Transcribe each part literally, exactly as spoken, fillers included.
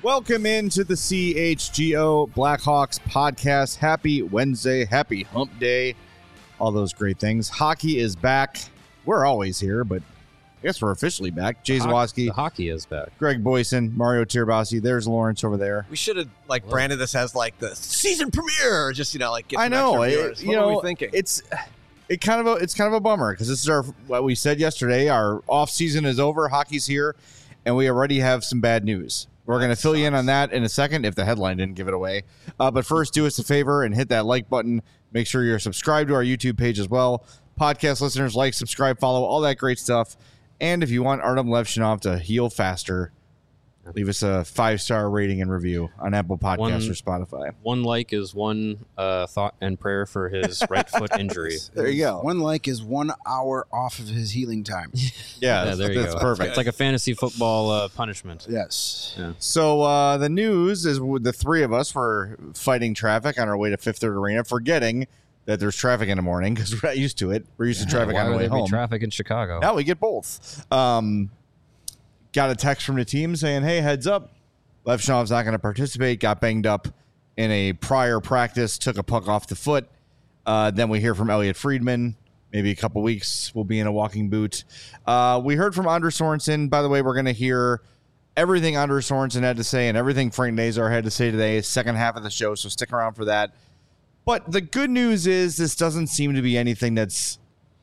Welcome into the C H G O Blackhawks podcast. Happy Wednesday, happy hump day, all those great things. Hockey is back. We're always here, but I guess we're officially back. Jay Zawoski. The hockey is back. Greg Boyson, Mario Tirabassi. There's Lawrence over there. We should have like branded this as like the season premiere, or just you know like get I some know. extra It, viewers. you What know, were we thinking? it's it kind of a it's kind of a bummer because this is our what we said yesterday. Our off season is over. Hockey's here, and we already have some bad news. We're going to fill you in on that in a second if the headline didn't give it away. Uh, but first, do us a favor and hit that like button. Make sure you're subscribed to our YouTube page as well. Podcast listeners, like, subscribe, follow, all that great stuff. And if you want Artem Levshinov to heal faster, leave us a five-star rating and review on Apple Podcasts One- or Spotify. One like is one uh, thought and prayer for his right foot injury. There you go. One like is one hour off of his healing time. Yeah, Yeah, that's, there you that's go. perfect. It's like a fantasy football uh, punishment. Yes. So uh, the news is with the three of us were fighting traffic on our way to Fifth Third Arena, forgetting that there's traffic in the morning because we're not used to it. We're used to traffic Why on the would way there be home. traffic in Chicago? Now we get both. Um, got a text from the team saying, hey, heads up. Levshinov's not going to participate. Got banged up in a prior practice. Took a puck off the foot. Uh, then we hear from Elliot Friedman. Maybe a couple weeks we'll be in a walking boot. Uh, we heard from Anders Sorensen. By the way, we're going to hear everything Anders Sorensen had to say and everything Frank Nazar had to say today. Second half of the show, so stick around for that. But the good news is this doesn't seem to be anything that's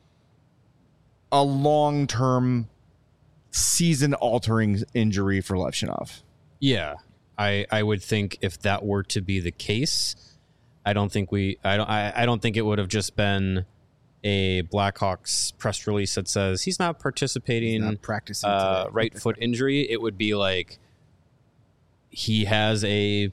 a long-term season-altering injury for Levshinov. Yeah, I I would think if that were to be the case, I don't think we I don't I, I don't think it would have just been a Blackhawks press release that says he's not participating. Not practicing uh, today. right foot injury. It would be like he has a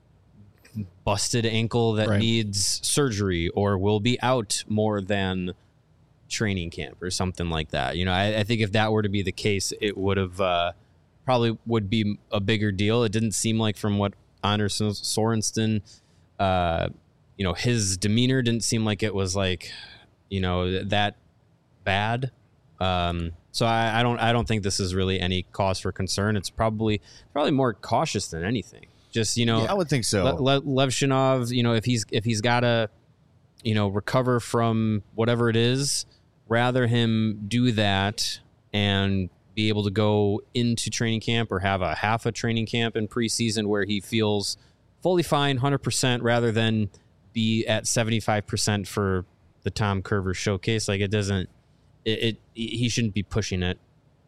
busted ankle that Right. needs surgery or will be out more than training camp or something like that. You know, I, I think if that were to be the case, it would have uh, probably would be a bigger deal. It didn't seem like from what Anders Sorensen, uh, you know, his demeanor didn't seem like it was like, you know, that bad. Um, so I, I don't I don't think this is really any cause for concern. It's probably probably more cautious than anything. Just, you know, Yeah, I would think so. Le- Le- Levshinov, you know, if he's if he's got to, you know, recover from whatever it is, rather him do that and be able to go into training camp or have a half a training camp in preseason where he feels fully fine, one hundred percent, rather than be at seventy-five percent for the Tom Curver showcase. Like it doesn't, it, it he shouldn't be pushing it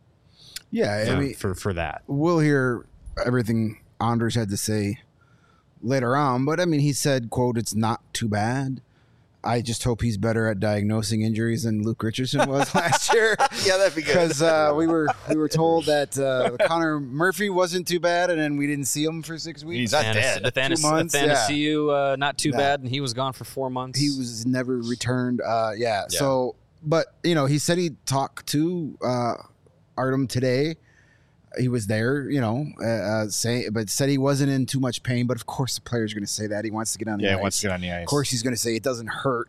Yeah, for, I mean, for, for that. we'll hear everything Anders had to say later on, but I mean, he said, quote, it's not too bad. I just hope he's better at diagnosing injuries than Luke Richardson was last year. Yeah, that'd be good. Because uh, we were we were told that uh, Connor Murphy wasn't too bad, and then we didn't see him for six weeks. He's not Athanas- dead. Athanas- Two months, Athanasiou, uh, not too No. bad, and he was gone for four months. He was never returned. Uh, yeah. Yeah. So, but you know, he said he talked to uh, Artem today. He was there, you know, uh, uh, say, but said he wasn't in too much pain. But of course, the player's going to say that he wants to get on the Yeah, ice. he wants to get on the ice. Of course, he's going to say it doesn't hurt.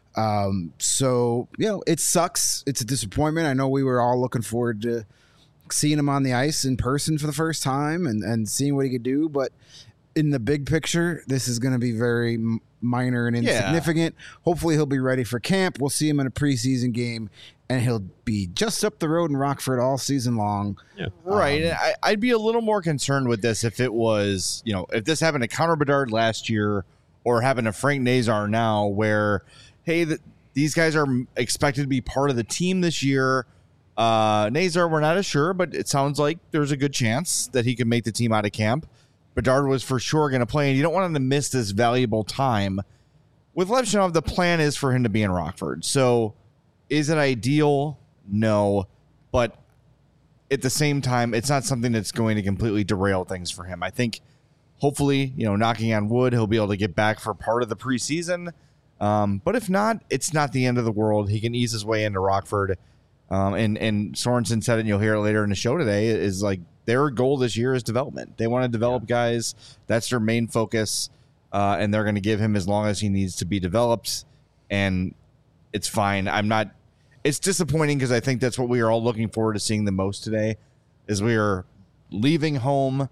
Um, so you know, it sucks. It's a disappointment. I know we were all looking forward to seeing him on the ice in person for the first time and, and seeing what he could do. But in the big picture, this is going to be very m- minor and Yeah. insignificant. Hopefully he'll be ready for camp. We'll see him in a preseason game and he'll be just up the road in Rockford all season long. Yeah. Right. Um, and I, I'd be a little more concerned with this if it was, you know, if this happened to Connor Bedard last year or happened to Frank Nazar now where, hey, the, these guys are expected to be part of the team this year. Uh, Nazar, we're not as sure, but it sounds like there's a good chance that he could make the team out of camp. Bedard was for sure going to play, and you don't want him to miss this valuable time. With Levshinov, the plan is for him to be in Rockford. So is it ideal? No. But at the same time, it's not something that's going to completely derail things for him. I think hopefully, you know, knocking on wood, he'll be able to get back for part of the preseason. Um, but if not, it's not the end of the world. He can ease his way into Rockford. Um, and, and Sorensen said it, and you'll hear it later in the show today, is like their goal this year is development. They want to develop yeah. guys. That's their main focus. Uh, and they're going to give him as long as he needs to be developed. And it's fine. I'm not, it's disappointing because I think that's what we are all looking forward to seeing the most today is we are leaving home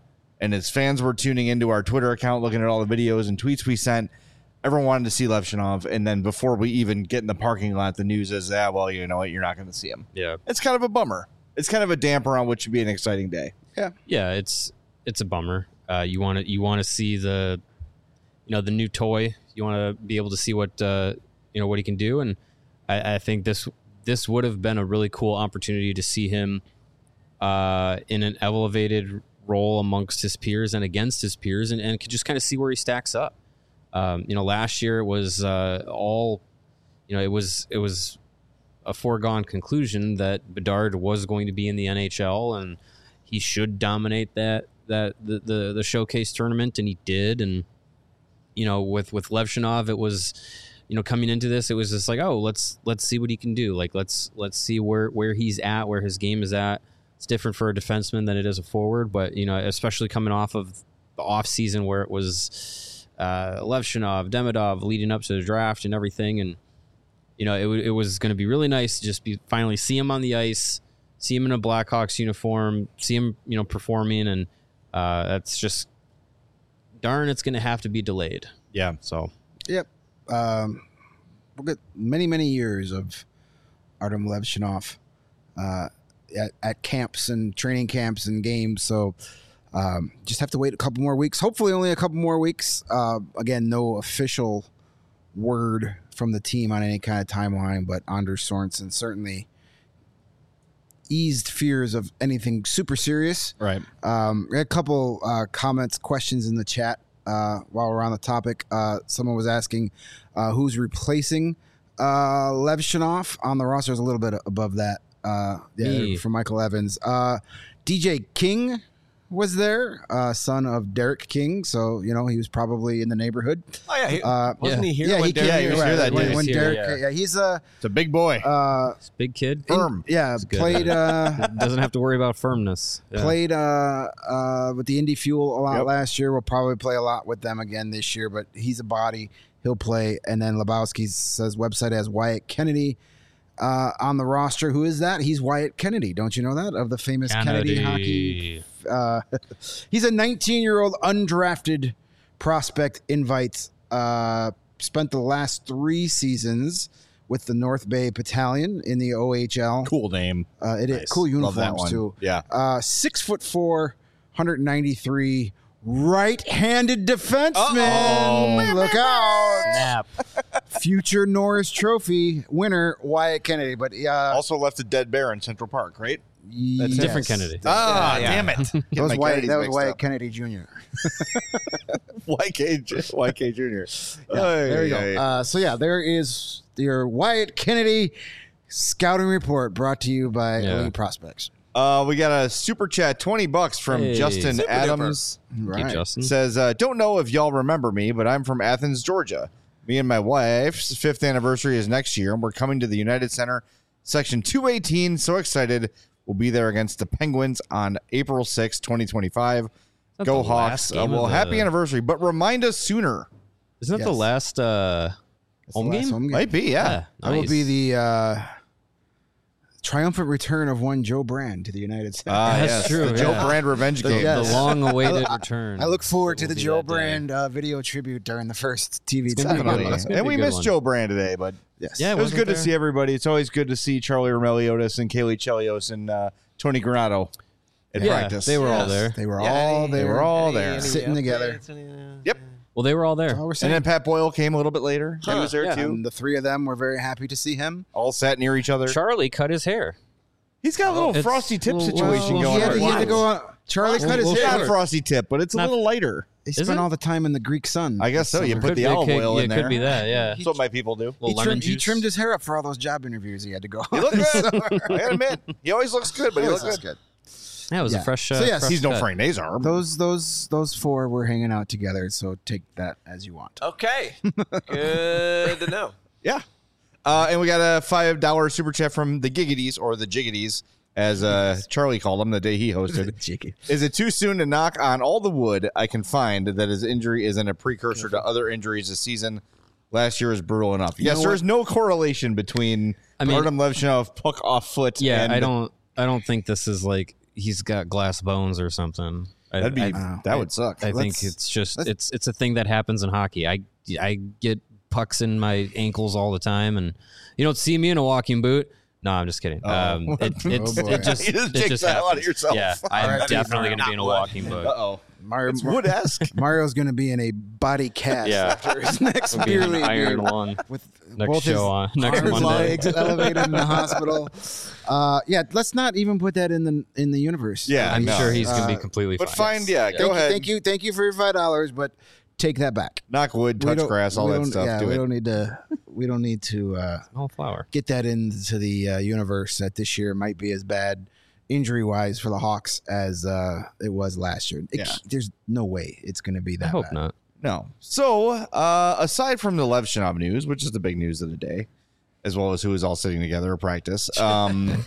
and as fans were tuning into our Twitter account, looking at all the videos and tweets we sent, everyone wanted to see Levshunov. And then before we even get in the parking lot, the news is, ah, well, you know what? You're not going to see him. Yeah. It's kind of a bummer. It's kind of a damper on what should be an exciting day. Yeah. Yeah, it's it's a bummer. Uh, you want to you want to see the, you know, the new toy. You want to be able to see what uh, you know what he can do, and I, I think this this would have been a really cool opportunity to see him uh, in an elevated role amongst his peers and against his peers, and, and could just kind of see where he stacks up. Um, you know, last year it was uh, all, you know, it was it was a foregone conclusion that Bedard was going to be in the N H L and he should dominate that that the the, the showcase tournament, and he did. And you know, with with Levshunov, it was, you know, coming into this, it was just like, oh, let's let's see what he can do. Like let's let's see where where he's at, where his game is at. It's different for a defenseman than it is a forward, but you know, especially coming off of the off season where it was uh, Levshunov, Demidov leading up to the draft and everything, and you know, it it was going to be really nice to just be finally see him on the ice, see him in a Blackhawks uniform, see him, you know, performing, and uh, that's just darn. It's going to have to be delayed. Yeah. So. Yep. Um, we'll get many many years of Artem Levshunov uh, at, at camps and training camps and games. So um, just have to wait a couple more weeks. Hopefully, only a couple more weeks. Uh, again, no official word from the team on any kind of timeline, but Anders Sorensen certainly eased fears of anything super serious. Right. Um, we had a couple uh, comments, questions in the chat uh, while we're on the topic. Uh, someone was asking uh, who's replacing uh, Levshunov on the roster. Is a little bit above that. Uh, yeah, Me. from Michael Evans. Uh, D J King was there, uh, son of Derek King. So, you know, he was probably in the neighborhood. Oh yeah, he, Uh, wasn't yeah. he here? yeah, when he Derek- yeah, he was right, here that when, day. when He was here, Derek, yeah. yeah, he's a It's a big boy. uh, Big kid. Firm. yeah, good. played uh, Doesn't have to worry about firmness. Yeah. played uh, uh, with the Indy Fuel a lot Yep. last year. We'll probably play a lot with them again this year, but he's a body. He'll play. And then Lebowski says website has Wyatt Kennedy uh, on the roster. Who is that? He's Wyatt Kennedy. Don't you know that? Of the famous Kennedy, hockey. Uh, he's a nineteen-year-old undrafted prospect invite. Uh, spent the last three seasons with the North Bay Battalion in the O H L. Cool name. Uh, it is Nice. cool Love that uniforms one. too. Yeah. Uh, six foot four, one ninety-three, right-handed defenseman. Uh-oh. Look out! Snap. Future Norris Trophy winner Wyatt Kennedy. But uh, Also left a dead bear in Central Park, right? yes. Different Kennedy. Ah, Yeah, yeah. damn it. Get That was my Wyatt, Kennedys that was mixed Wyatt up. Kennedy Junior Y K J Y K Junior Yeah, there you go. Uh, so yeah, there is your Wyatt Kennedy scouting report brought to you by Yeah. Elite Prospects. Uh, we got a super chat, twenty bucks from Hey. Justin Super Adams. Thank you, Justin. Says, uh, don't know if y'all remember me, but I'm from Athens, Georgia. Me and my wife's fifth anniversary is next year, and we're coming to the United Center, section two eighteen. So excited. We'll be there against the Penguins on April sixth, twenty twenty-five. Not Go the Hawks. last Uh, game well, of happy the- anniversary, but remind us sooner. Isn't that the Yes. last uh, That's the home last game? home game. Might be, yeah. Yeah, That will nice. be the uh, triumphant return of one Joe Brand to the United States. Ah, That's yes, true, The Joe yeah. Brand revenge The, game. Yes. the long-awaited I- return. I look forward to Will the be Joe that day. Brand uh, video tribute during the first T V It's gonna be time. good. Definitely. It's gonna And be we a good missed one. Joe Brand today, but Yes. Yeah, it was wasn't good to there? see everybody. It's always good to see Charlie Romeliotis and Kaylee Chelios and uh, Tony Granato at Yeah, practice. they were all Yes. there. They were Yeah, all any- They there. were all any- there. any Sitting updates? together. Any, uh, Yep. Well, they were all there. That's all we're And saying. then Pat Boyle came a little bit later. He Huh. was there Yeah. too. And the three of them were very happy to see him. All sat near each other. Charlie cut his hair. He's got a little It's- frosty tip well, situation well, going he had, on. to, he had to go on. Charlie Well, cut his well, It's hair. not a frosty tip, but it's a Not- little lighter. He Is spent it? all the time in the Greek sun. I guess so. this You summer. put the be- olive could- oil yeah, in it there. could be that. Yeah. That's what my people do. Little He lemon trimmed, he juice. trimmed his hair up for all those job interviews he had to go He on. looked this good. summer. I gotta admit, he always looks good, but he looks That's good. good. Yeah, it was Yeah. a fresh. Uh, So, yes, fresh He's no cut. Frank Nazar. Those those those four were hanging out together, so take that as you want. Okay. Good to know. Yeah. Uh, and we got a five dollar super chat from the Giggities, or the Jiggities, as uh, Charlie called them the day he hosted. Jicky. Is it too soon to knock on all the wood I can find that his injury isn't a precursor to other injuries this season? Last year is brutal enough. Yes, know there's no correlation between I mean- Artem Levshunov puck off foot. Yeah, and I don't. I don't think this is like he's got glass bones or something. That'd be I, that would suck. I think Let's- it's just let's- it's it's a thing that happens in hockey. I I get pucks in my ankles all the time, and you don't see me in a walking boot. No, I'm just kidding. Oh. Um, it, it's, Oh, boy. it just You just it jinxed just that out of happens. yourself. Yeah, I'm Alright, definitely Mario. going to be in a Not wood. walking boot. Uh oh. Mario, It's wood-esque. Mario's going to be in a body cast Yeah. after his next I'll be beer in league Iron game Lung with next both his show on next arms, Monday. legs elevated in the hospital. Uh, yeah, let's not even put that in the in the universe. Yeah, I'm no. sure he's going to Uh, be completely But fine. fine, yeah, Yeah. go Thank you, ahead. thank you, thank you for your five dollars, but take that back. Knock wood, We touch don't- grass, all we that don't- stuff. Yeah, Do we it. don't need to. We don't need to uh, Small flower. get that into the uh, universe that this year might be as bad injury wise for the Hawks as uh, it was last year. It, Yeah. There's no way it's going to be that I hope bad. not. No. So, uh, aside from the Lev Shinab news, which is the big news of the day, as well as who is all sitting together at practice, um,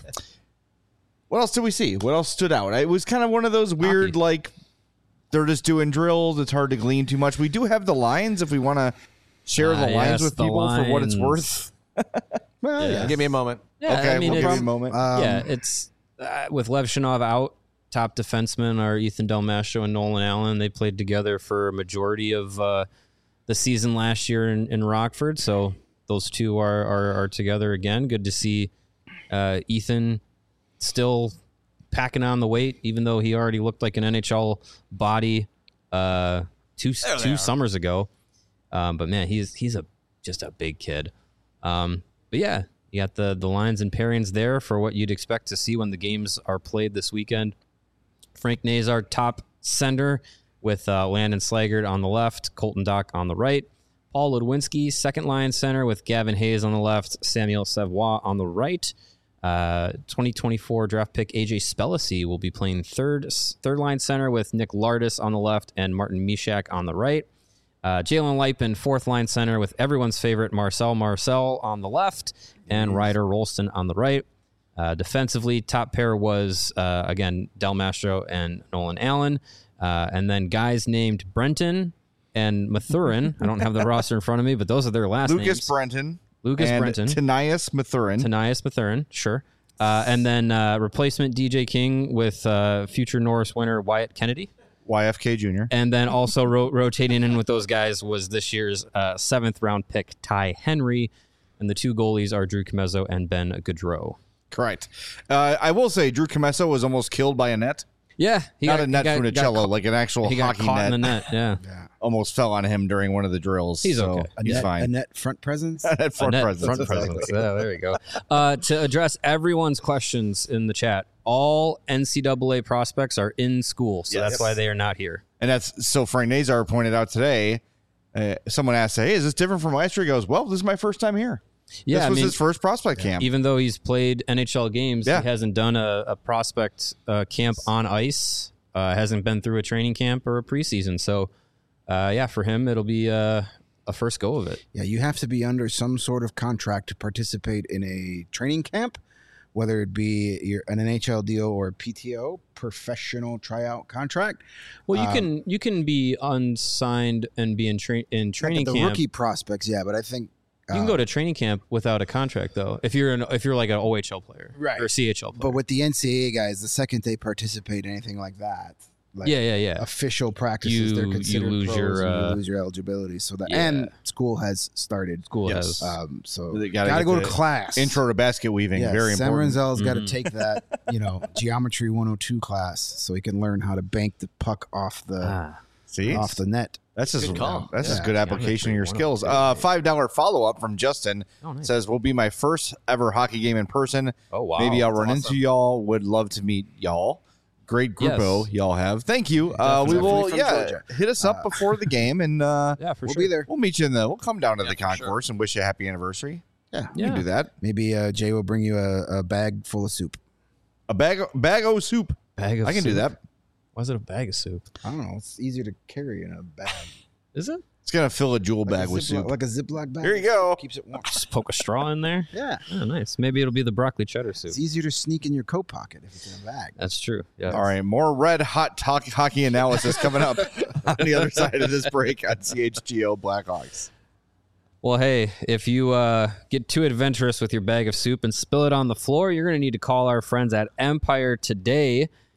what else did we see? What else stood out? It was kind of one of those weird, Hockey. like, they're just doing drills. It's hard to glean too much. We do have the lines if we want to share Ah, the lines yes, with the people for what it's lines. worth. Well, Yeah. yeah. Give me a moment. Yeah, okay, I mean, we'll give you it's, a moment. Um, yeah, it's uh, with Lev Shinov out, top defensemen are Ethan Del Mastro and Nolan Allen. They played together for a majority of uh, the season last year in, in Rockford, so those two are, are are together again. Good to see uh, Ethan still packing on the weight, even though he already looked like an N H L body uh, two There they two are. summers ago. Um, but man, he's he's a just a big kid. Um, but yeah, you got the the lines and pairings there for what you'd expect to see when the games are played this weekend. Frank Nazar, top center, with uh, Landon Slaggert on the left, Colton Dock on the right. Paul Ludwinski, second line center, with Gavin Hayes on the left, Samuel Savoie on the right. Uh, twenty twenty-four draft pick A J Spellacy will be playing third third line center with Nick Lardis on the left and Martin Mishak on the right. Uh, Jalen Lipin, fourth line center with everyone's favorite Marcel Marcel on the left and Ryder Rolston on the right. Uh, defensively, top pair was, uh, again, Del Mastro and Nolan Allen. Uh, and then guys named Brenton and Mathurin. I don't have the roster in front of me, but those are their last Lucas names. Brenton. Lucas and Brenton. Tanias Mathurin. Tanias Mathurin, sure. Uh, and then uh, replacement D J King with uh, future Norris winner Wyatt Kennedy. Y F K Junior And then also ro- rotating in with those guys was this year's uh, seventh round pick Ty Henry. And the two goalies are Drew Comezzo and Ben Gaudreau. Correct. Uh, I will say Drew Comesso was almost killed by a net. Yeah. He Not got, a net he got, Funicello, got, like an actual he got hockey caught net. in the net. Yeah. Yeah. Almost fell on him during one of the drills. He's so okay. A He's net, fine. A net front presence. At front net presence. front exactly. presence. Yeah, there we go. Uh, to address everyone's questions in the chat, all N C double A prospects are in school, so Yes. that's why they are not here. And that's so Frank Nazar pointed out today. Uh, someone asked, "Hey, is this different from last year?" He goes, "Well, this is my first time here. Yeah, this I was mean, his first prospect camp." even though he's played N H L games, Yeah. he hasn't done a, a prospect uh, camp on ice. Uh, hasn't been through a training camp or a preseason. So, uh, yeah, for him, it'll be uh, a first go of it. Yeah, you have to be under some sort of contract to participate in a training camp, whether it be your, an N H L deal or a P T O, professional tryout contract. Well, you Um, can you can be unsigned and be in, tra- in training the camp. rookie prospects, yeah, but I think You can uh, go to training camp without a contract, though. If you're an if you're like an O H L player, Right. or C H L player. But with the N C A A guys, the second they participate in anything like that, like yeah, yeah, yeah. official practices, You- they're you considered lose pros your, and uh, you lose your eligibility. So that yeah. and school has started. School Yes. has. Um, so They gotta, gotta get go to the class. Intro to basket weaving, Yeah, very Sam important. Renzel's got to Mhm. take that, you know, geometry one oh two class so he can learn how to bank the puck off the ah. See, off the net. that's just Good call. that's just Yeah. good application of your Geometry skills. one oh Uh, two. Five dollar follow up from Justin Oh, nice. says, "Will be my first ever hockey game in person. Oh wow. Maybe I'll that's run awesome. into y'all. Would love to meet y'all. Great grupo Yes. y'all have. Thank you. Uh, we Definitely will, from yeah, Georgia. hit us up before the game, and uh, Yeah, for We'll sure. be there. we'll meet you in the. We'll come down to Yeah, the for sure. concourse and wish you a happy anniversary. Yeah. We Yeah. can do that. Maybe uh, Jay will bring you a, a bag full of soup. A bag, bag o' soup. Bag of I can do soup. that. Why is it a bag of soup? I don't know. It's easier to carry in a bag. Is it? It's gonna fill a jewel Like bag a with Ziploc- soup. Like a Ziploc bag. Here you go. Keeps it warm. Just poke a straw in there. Yeah. Oh, nice. Maybe it'll be the broccoli cheddar soup. It's easier to sneak in your coat pocket if it's in a bag. That's true. Yeah. All right, more red hot talk, hockey analysis coming up on the other side of this break on C H G O Blackhawks. Well, hey, if you uh, get too adventurous with your bag of soup and spill it on the floor, you're going to need to call our friends at Empire today.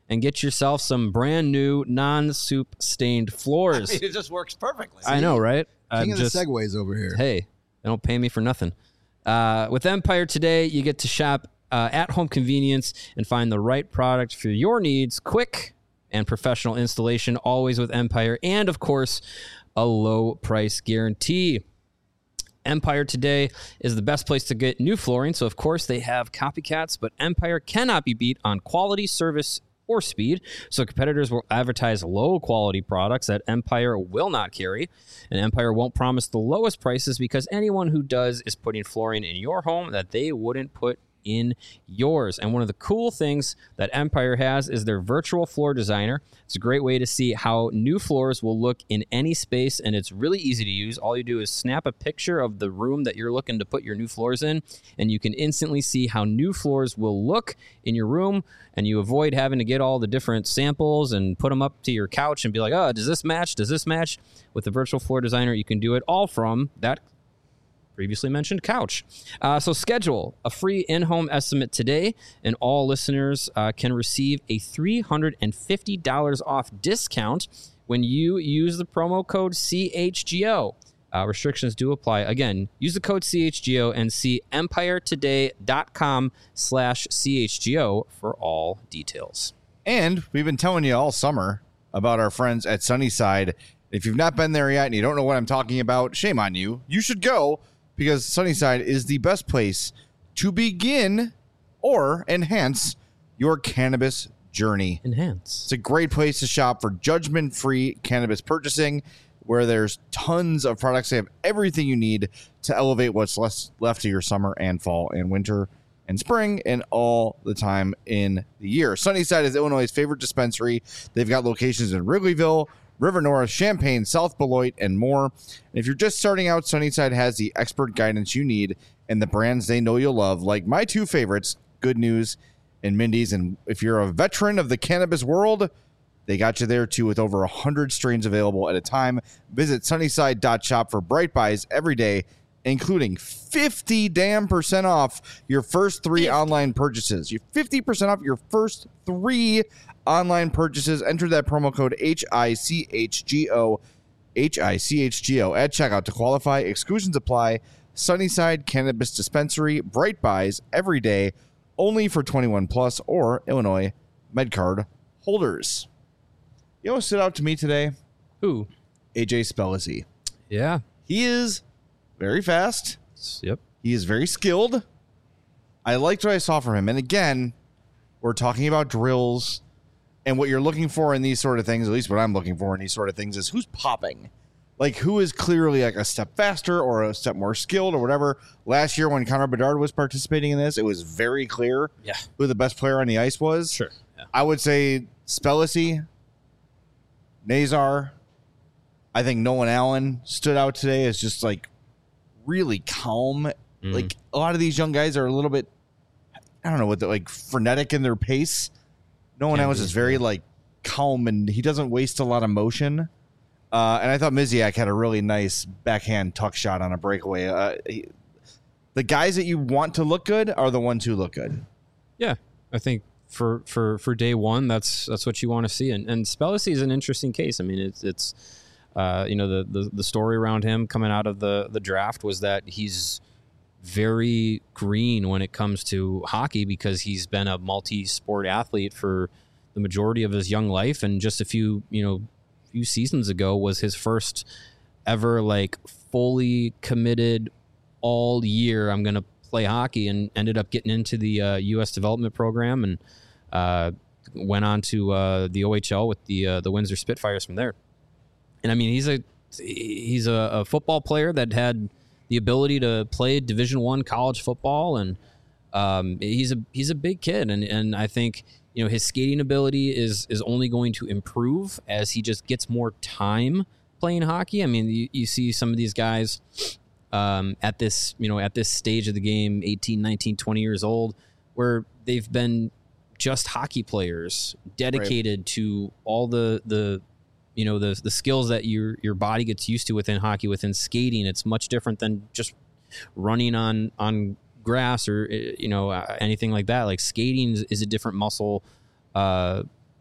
and get yourself some brand new non-soup stained floors. I mean, it just works perfectly. I know, right? King I'm of just, the segues over here. Hey, they don't pay me for nothing. Uh, with Empire today, you get to shop uh, at home convenience and find the right product for your needs. Quick and professional installation, always with Empire. And, of course, a low price guarantee. Empire today is the best place to get new flooring. So, of course, they have copycats, but Empire cannot be beat on quality, service, or speed. So competitors will advertise low quality products that Empire will not carry. And Empire won't promise the lowest prices because anyone who does is putting flooring in your home that they wouldn't put in yours. And one of the cool things that Empire has is their virtual floor designer. It's a great way to see how new floors will look in any space, and it's really easy to use. All you do is snap a picture of the room that you're looking to put your new floors in, and you can instantly see how new floors will look in your room, and you avoid having to get all the different samples and put them up to your couch and be like, oh, does this match? Does this match? With the virtual floor designer, you can do it all from that previously mentioned couch. Uh, so schedule a free in-home estimate today, and all listeners uh, can receive a three hundred fifty dollars off discount when you use the promo code C H G O. Uh, restrictions do apply. Again, use the code C H G O and see empiretoday.com slash CHGO for all details. And we've been telling you all summer about our friends at Sunnyside. If you've not been there yet and you don't know what I'm talking about, shame on you. You should go, because Sunnyside is the best place to begin or enhance your cannabis journey. Enhance. It's a great place to shop for judgment-free cannabis purchasing, where there's tons of products. They have everything you need to elevate what's less left of your summer and fall and winter and spring and all the time in the year. Sunnyside is Illinois' favorite dispensary. They've got locations in Wrigleyville, River North, Champaign, South Beloit, and more. And if you're just starting out, Sunnyside has the expert guidance you need and the brands they know you'll love, like my two favorites, Good News and Mindy's. And if you're a veteran of the cannabis world, they got you there too, with over one hundred strains available at a time. Visit sunnyside dot shop for bright buys every day, including fifty damn percent off your first three online purchases. You're fifty percent off your first three online purchases. Enter that promo code H I C H G O, H I C H G O at checkout to qualify. Exclusions apply. Sunnyside Cannabis Dispensary, bright buys every day, only for twenty-one plus or Illinois MedCard holders. You know what stood out to me today? Who? A J Spellacy. Yeah. He is very fast. Yep. He is very skilled. I liked what I saw from him. And again, we're talking about drills. And what you're looking for in these sort of things, at least what I'm looking for in these sort of things, is who's popping. Like, who is clearly like a step faster or a step more skilled or whatever. Last year when Connor Bedard was participating in this, it was very clear Yeah. who the best player on the ice was. Sure. Yeah. I would say Spellacy, Nazar. I think Nolan Allen stood out today as just like really calm. Mm. Like, a lot of these young guys are a little bit, I don't know what, they're like frenetic in their pace. Nolan Can Allen's be, is very yeah. like calm, and he doesn't waste a lot of motion. Uh, and I thought Miziak had a really nice backhand tuck shot on a breakaway. Uh, he, the guys that you want to look good are the ones who look good. Yeah, I think for for for day one, that's that's what you want to see. And and Spellacy is an interesting case. I mean, it's it's uh, you know the, the the story around him coming out of the the draft was that he's very green when it comes to hockey because he's been a multi-sport athlete for the majority of his young life, and just a few you know few seasons ago was his first ever like fully committed all year I'm gonna play hockey, and ended up getting into the uh, U S development program and uh, went on to uh, the O H L with the uh, the Windsor Spitfires from there. And I mean, he's a he's a, a football player that had the ability to play Division One college football, and um, he's a he's a big kid, and and I think you know his skating ability is is only going to improve as he just gets more time playing hockey. I mean, you, you see some of these guys um, at this you know at this stage of the game, eighteen, nineteen, twenty years old, where they've been just hockey players dedicated right. to all the the you know the the skills that your your body gets used to within hockey. Within skating, it's much different than just running on on grass or you know anything like that. Like skating is, is a different muscle uh,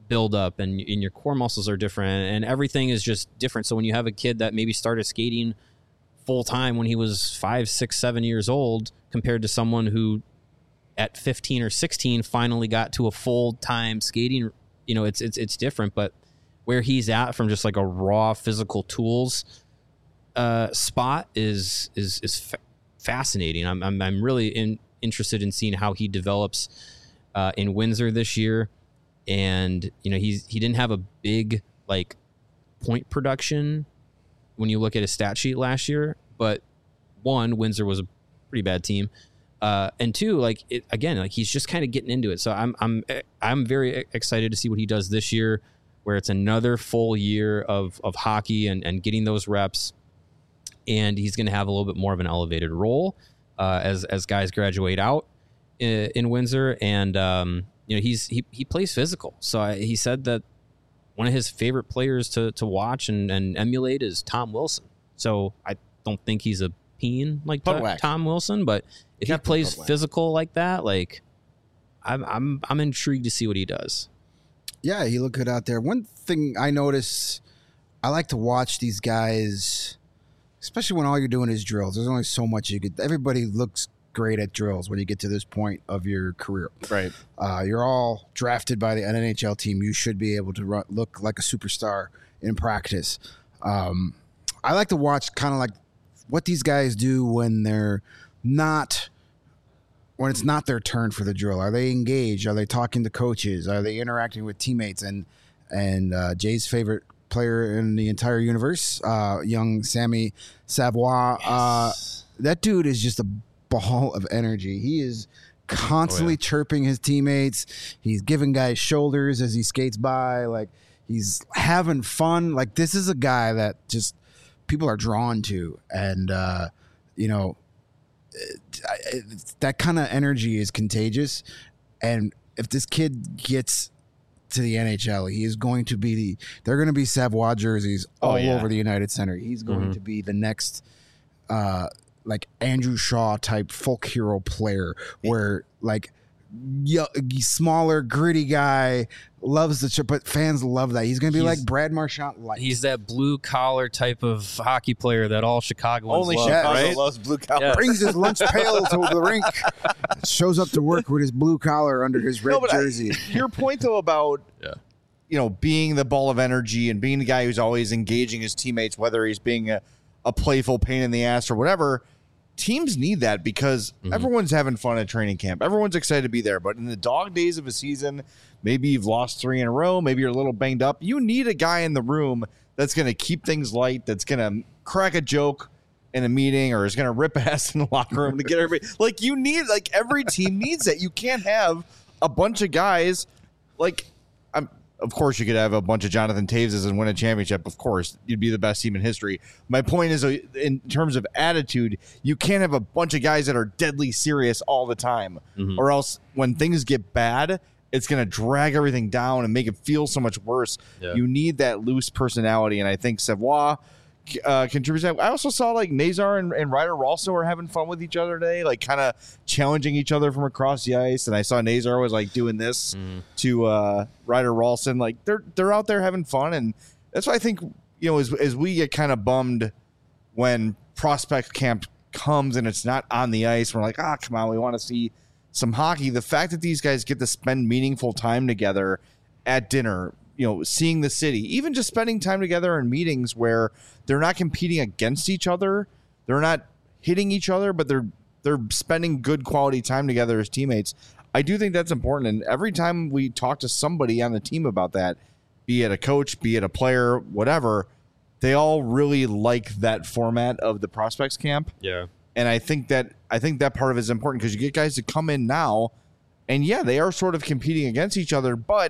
build up, and, and your core muscles are different, and everything is just different. So when you have a kid that maybe started skating full time when he was five, six, seven years old, compared to someone who at fifteen or sixteen finally got to a full time skating, you know, it's it's it's different. But where he's at from just like a raw physical tools uh, spot is is is fa- fascinating. I'm I'm I'm really in, interested in seeing how he develops uh, in Windsor this year. And you know, he's he didn't have a big like point production when you look at his stat sheet last year, but one, Windsor was a pretty bad team, uh, and two, like it, again, like he's just kind of getting into it. So I'm I'm I'm very excited to see what he does this year, where it's another full year of of hockey and and getting those reps, and he's going to have a little bit more of an elevated role uh, as as guys graduate out in, in Windsor, and um, you know he's he he plays physical. So I, he said that one of his favorite players to to watch and, and emulate is Tom Wilson. So I don't think he's a peen like to, Tom Wilson, but if he plays physical like that, like I'm I'm I'm intrigued to see what he does. Yeah, he looked good out there. One thing I notice, I like to watch these guys, especially when all you're doing is drills. There's only so much you could. Everybody looks great at drills when you get to this point of your career. Right. Uh, you're all drafted by the N H L team. You should be able to run, look like a superstar in practice. Um, I like to watch kind of like what these guys do when they're not, when it's not their turn for the drill. Are they engaged? Are they talking to coaches? Are they interacting with teammates? And and uh, Jay's favorite player in the entire universe, uh, young Sammy Savoie. Yes. Uh, that dude is just a ball of energy. He is constantly oh, yeah. chirping his teammates. He's giving guys shoulders as he skates by. Like, he's having fun. Like, this is a guy that just people are drawn to. And, uh, you know, it, it, that kind of energy is contagious. And if this kid gets to the N H L, he is going to be the, they're going to be Savoie jerseys all oh, yeah. over the United Center. He's going mm-hmm. to be the next, uh, like Andrew Shaw type folk hero player, where like y- smaller, gritty guy loves the chip, but fans love that. He's gonna be he's, like Brad Marchand light. He's that blue collar type of hockey player that all Chicagoans only love, Chicago right? loves blue collar. Yeah. Brings his lunch pail to the rink, shows up to work with his blue collar under his red no, jersey. I, your point though about yeah. you know being the ball of energy and being the guy who's always engaging his teammates, whether he's being a, a playful pain in the ass or whatever. Teams need that because mm-hmm. everyone's having fun at training camp. Everyone's excited to be there. But in the dog days of a season, maybe you've lost three in a row. Maybe you're a little banged up. You need a guy in the room that's going to keep things light, that's going to crack a joke in a meeting or is going to rip ass in the locker room to get everybody. Like, you need, like, every team needs that. You can't have a bunch of guys like, I'm, of course, you could have a bunch of Jonathan Taveses and win a championship. Of course, you'd be the best team in history. My point is, in terms of attitude, you can't have a bunch of guys that are deadly serious all the time, mm-hmm. or else when things get bad, it's going to drag everything down and make it feel so much worse. Yeah. You need that loose personality, and I think Savoie uh, contributes. I also saw like Nazar and, and Ryder Ralston were having fun with each other today, like kind of challenging each other from across the ice. And I saw Nazar was like doing this mm. to uh, Ryder Ralston. Like they're they're out there having fun, and that's why I think you know as as we get kind of bummed when prospect camp comes and it's not on the ice. We're like, ah, oh, come on, we want to see some hockey. The fact that these guys get to spend meaningful time together at dinner, you know, seeing the city, even just spending time together in meetings where they're not competing against each other, they're not hitting each other, but they're they're spending good quality time together as teammates. I do think that's important. And every time we talk to somebody on the team about that, be it a coach, be it a player, whatever, they all really like that format of the prospects camp. Yeah. And I think that I think that part of it is important because you get guys to come in now, and yeah, they are sort of competing against each other, but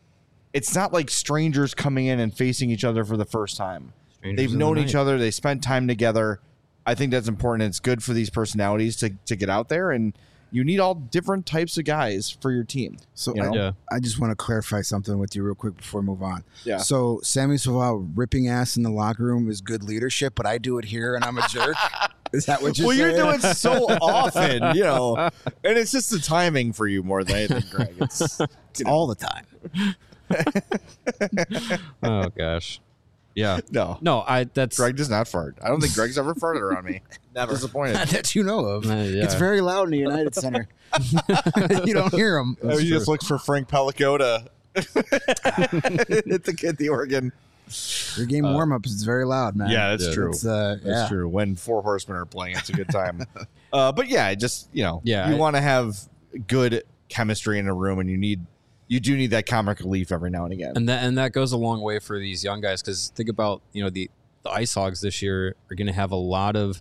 it's not like strangers coming in and facing each other for the first time. Strangers They've known the each other. They spent time together. I think that's important. It's good for these personalities to, to get out there, and you need all different types of guys for your team. So you know? I, yeah. I just want to clarify something with you real quick before we move on. Yeah. So Sammy Savoie ripping ass in the locker room is good leadership, but I do it here and I'm a jerk. Is that what you're well, saying? Well, you're doing it so often, you know, and it's just the timing for you more than anything, Greg. It's, it's all the time. Oh gosh. Yeah. No. No, I that's Greg does not fart. I don't think Greg's ever farted around me. Never. Disappointed. that you know of. Uh, yeah. It's very loud in the United Center. You don't hear them. Oh, he just looks for Frank Palico to hit the kid the organ. Your game warm ups is very loud, man. Yeah, that's Yeah, true. It's, uh, That's yeah. true. When Four Horsemen are playing, it's a good time. uh, but yeah, just you know, Yeah, you I- want to have good chemistry in a room, and you need you do need that comic relief every now and again. and that and that goes a long way for these young guys because think about you know the the Ice Hogs this year are going to have a lot of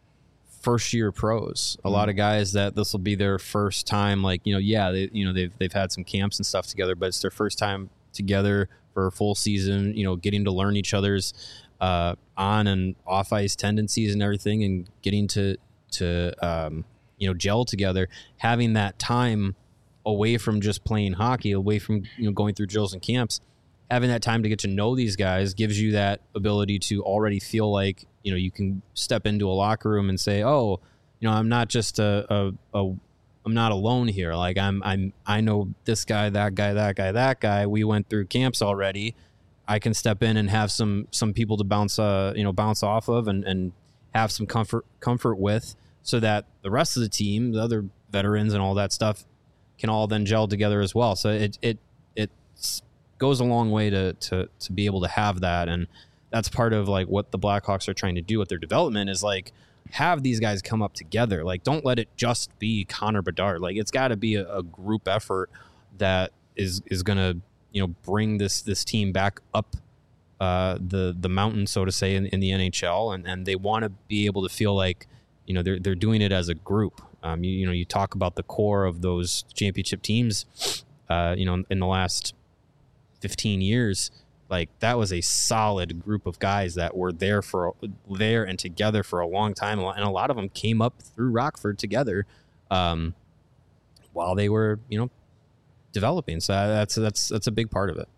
first year pros, a lot of guys that this will be their first time. Like you know, yeah, they you know they've they've had some camps and stuff together, but it's their first time together for a full season. You know, getting to learn each other's uh, on and off ice tendencies and everything, and getting to to um, you know gel together, having that time away from just playing hockey, away from you know going through drills and camps, having that time to get to know these guys gives you that ability to already feel like you know you can step into a locker room and say, oh, you know, I'm not just a, a, a I'm not alone here. Like I'm I'm I know this guy, that guy, that guy, that guy. We went through camps already. I can step in and have some some people to bounce uh you know bounce off of and and have some comfort comfort with, so that the rest of the team, the other veterans and all that stuff, can all then gel together as well. So it it it goes a long way to to to be able to have that, and that's part of like what the Blackhawks are trying to do with their development is like have these guys come up together. Like don't let it just be Connor Bedard. Like it's got to be a, a group effort that is is going to you know bring this this team back up uh, the the mountain, so to say, in, in the N H L, and and they want to be able to feel like you know they're they're doing it as a group. Um, you, you know, you talk about the core of those championship teams, uh, you know, in the last fifteen years, like that was a solid group of guys that were there for there and together for a long time. And a lot of them came up through Rockford together, um, while they were, you know, developing. So that's, that's, that's a big part of it.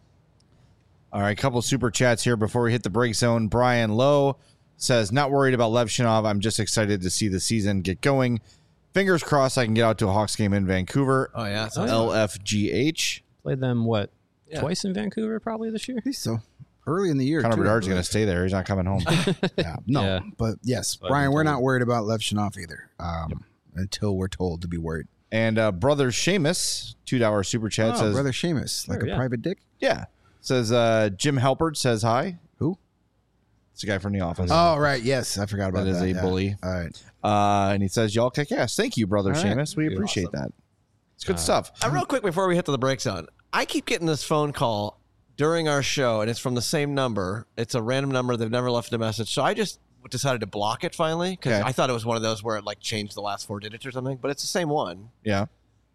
All right, a couple super chats here before we hit the break zone. Brian Lowe says, not worried about Levshinov. I'm just excited to see the season get going. Fingers crossed I can get out to a Hawks game in Vancouver. Oh, yeah. Oh, yeah. L F G H. Played them, what, Yeah. twice in Vancouver probably this year? I think so. Early in the year. Connor too, Bedard's I going to believe. stay there. He's not coming home. Yeah, no, Yeah. but yes, But Brian, we're until- not worried about Lev Shanoff either. Um, until we're told to be worried. And uh, brother Seamus, two dollar super chat Oh, says, brother Seamus, like Sure, a yeah. private dick. yeah, says uh, Jim Halpert says hi. Who? It's a guy from The Office. Oh, right. Yes, I forgot about That that. is a yeah. bully. All right. Uh, and he says, y'all kick ass. Thank you, brother All right. Seamus. We appreciate Awesome. that. It's good Uh, stuff. Uh, real quick before we hit to the break zone, I keep getting this phone call during our show, and it's from the same number. It's a random number. They've never left a message. So I just decided to block it finally because Okay. I thought it was one of those where it like changed the last four digits or something, but it's the same one. Yeah.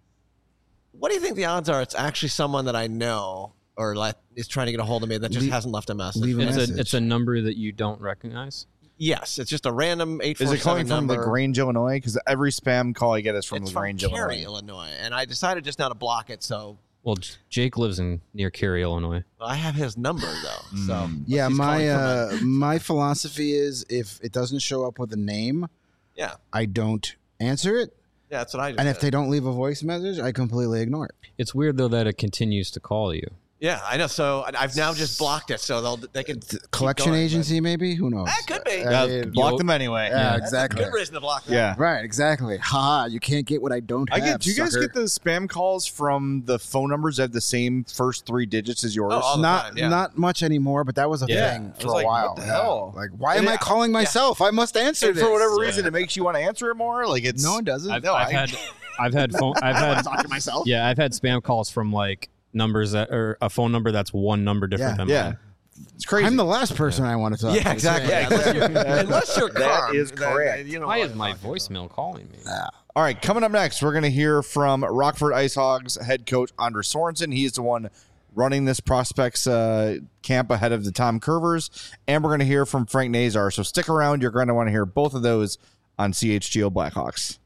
What do you think the odds are it's actually someone that I know or like is trying to get a hold of me that just Leave- hasn't left a message? leave a It's message. a, it's a number that you don't recognize. Yes, it's just a random eight Is four it coming seven from number. LaGrange, Illinois? Because every spam call I get is from It's from LaGrange, Cary, Illinois. Illinois, and I decided just now to block it. So Well, J- Jake lives in near Cary, Illinois. I have his number though. So Mm. Yeah, he's my calling from uh, my philosophy is if it doesn't show up with a name, Yeah. I don't answer it. Yeah, that's what I just And if did. they don't leave a voice message, I completely ignore it. It's weird though that it continues to call you. Yeah, I know. So I- I've now just blocked it, so they'll they can keep Collection going, agency, maybe? Who knows? That could be. Uh, Yeah, I mean, block Yo- them anyway. yeah, That's exactly. a good reason to block that. Yeah. Right, exactly. Haha, you can't get what I don't I have. get. Do you guys sucker. get the spam calls from the phone numbers that have the same first three digits as yours? Oh, all the not time, yeah. not much anymore, but that was a Yeah. thing I for was a like, while. what the Yeah. hell? Like, why And am I it- calling myself? I must answer and this. for whatever Yeah. reason, it makes you want to answer it more. Like it's No, it doesn't. I've, No, I've I- had I've had phone I've I don't want had to talk to myself. yeah I've had spam calls from like numbers that or a phone number that's one number different Yeah. than Yeah, mine. it's crazy. I'm the last person I want to talk to. Yeah, exactly. Yeah, unless you're, unless you're That Carm, is then, correct. you know Why what is my I'm talking voicemail calling me? All right, coming up next, we're going to hear from Rockford Ice Hogs head coach Anders Sorensen. He is the one running this prospects uh, camp ahead of the Tom Curvers, and we're going to hear from Frank Nazar. So stick around; you're going to want to hear both of those on C H G O Blackhawks.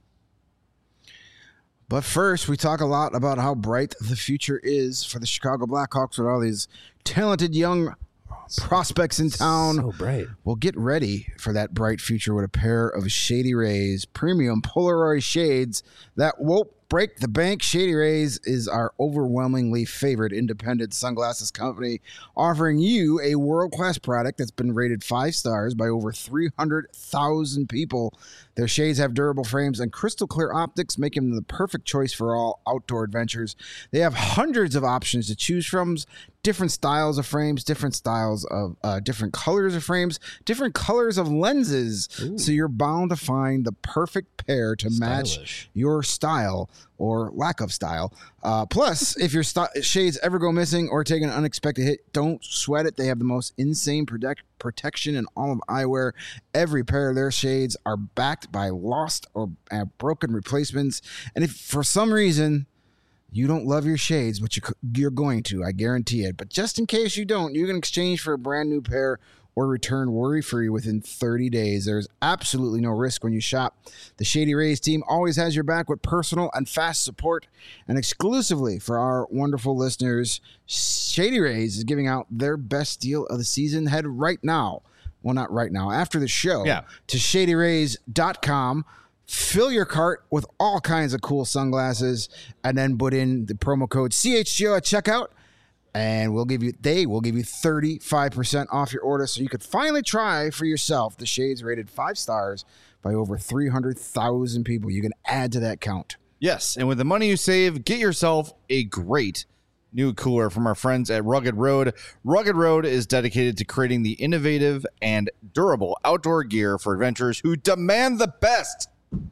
But first, we talk a lot about how bright the future is for the Chicago Blackhawks with all these talented young prospects in town. bright. Well, get ready for that bright future with a pair of Shady Rays premium Polaroid shades that won't break the bank. Shady Rays is our overwhelmingly favorite independent sunglasses company, offering you a world-class product that's been rated five stars by over three hundred thousand people. Their shades have durable frames and crystal clear optics, making them the perfect choice for all outdoor adventures. They have hundreds of options to choose from, different styles of frames, different styles of uh, different colors of frames, different colors of lenses. Ooh. So you're bound to find the perfect pair to Stylish. match your style or lack of style. Uh, plus, if your st- shades ever go missing or take an unexpected hit, don't sweat it. They have the most insane protect- protection in all of eyewear. Every pair of their shades are backed by lost or uh, broken replacements. And if for some reason you don't love your shades, but you, you're going to, I guarantee it. But just in case you don't, you can exchange for a brand new pair or return worry-free within thirty days. There's absolutely no risk when you shop. The Shady Rays team always has your back with personal and fast support. And exclusively for our wonderful listeners, Shady Rays is giving out their best deal of the season. Head right now, well, not right now, after the show, yeah. to shady rays dot com. Fill your cart with all kinds of cool sunglasses, and then put in the promo code C H G O at checkout. And we'll give you, they will give you thirty-five percent off your order so you could finally try for yourself the shades rated five stars by over three hundred thousand people. You can add to that count. Yes, and with the money you save, get yourself a great new cooler from our friends at Rugged Road. Rugged Road is dedicated to creating the innovative and durable outdoor gear for adventurers who demand the best.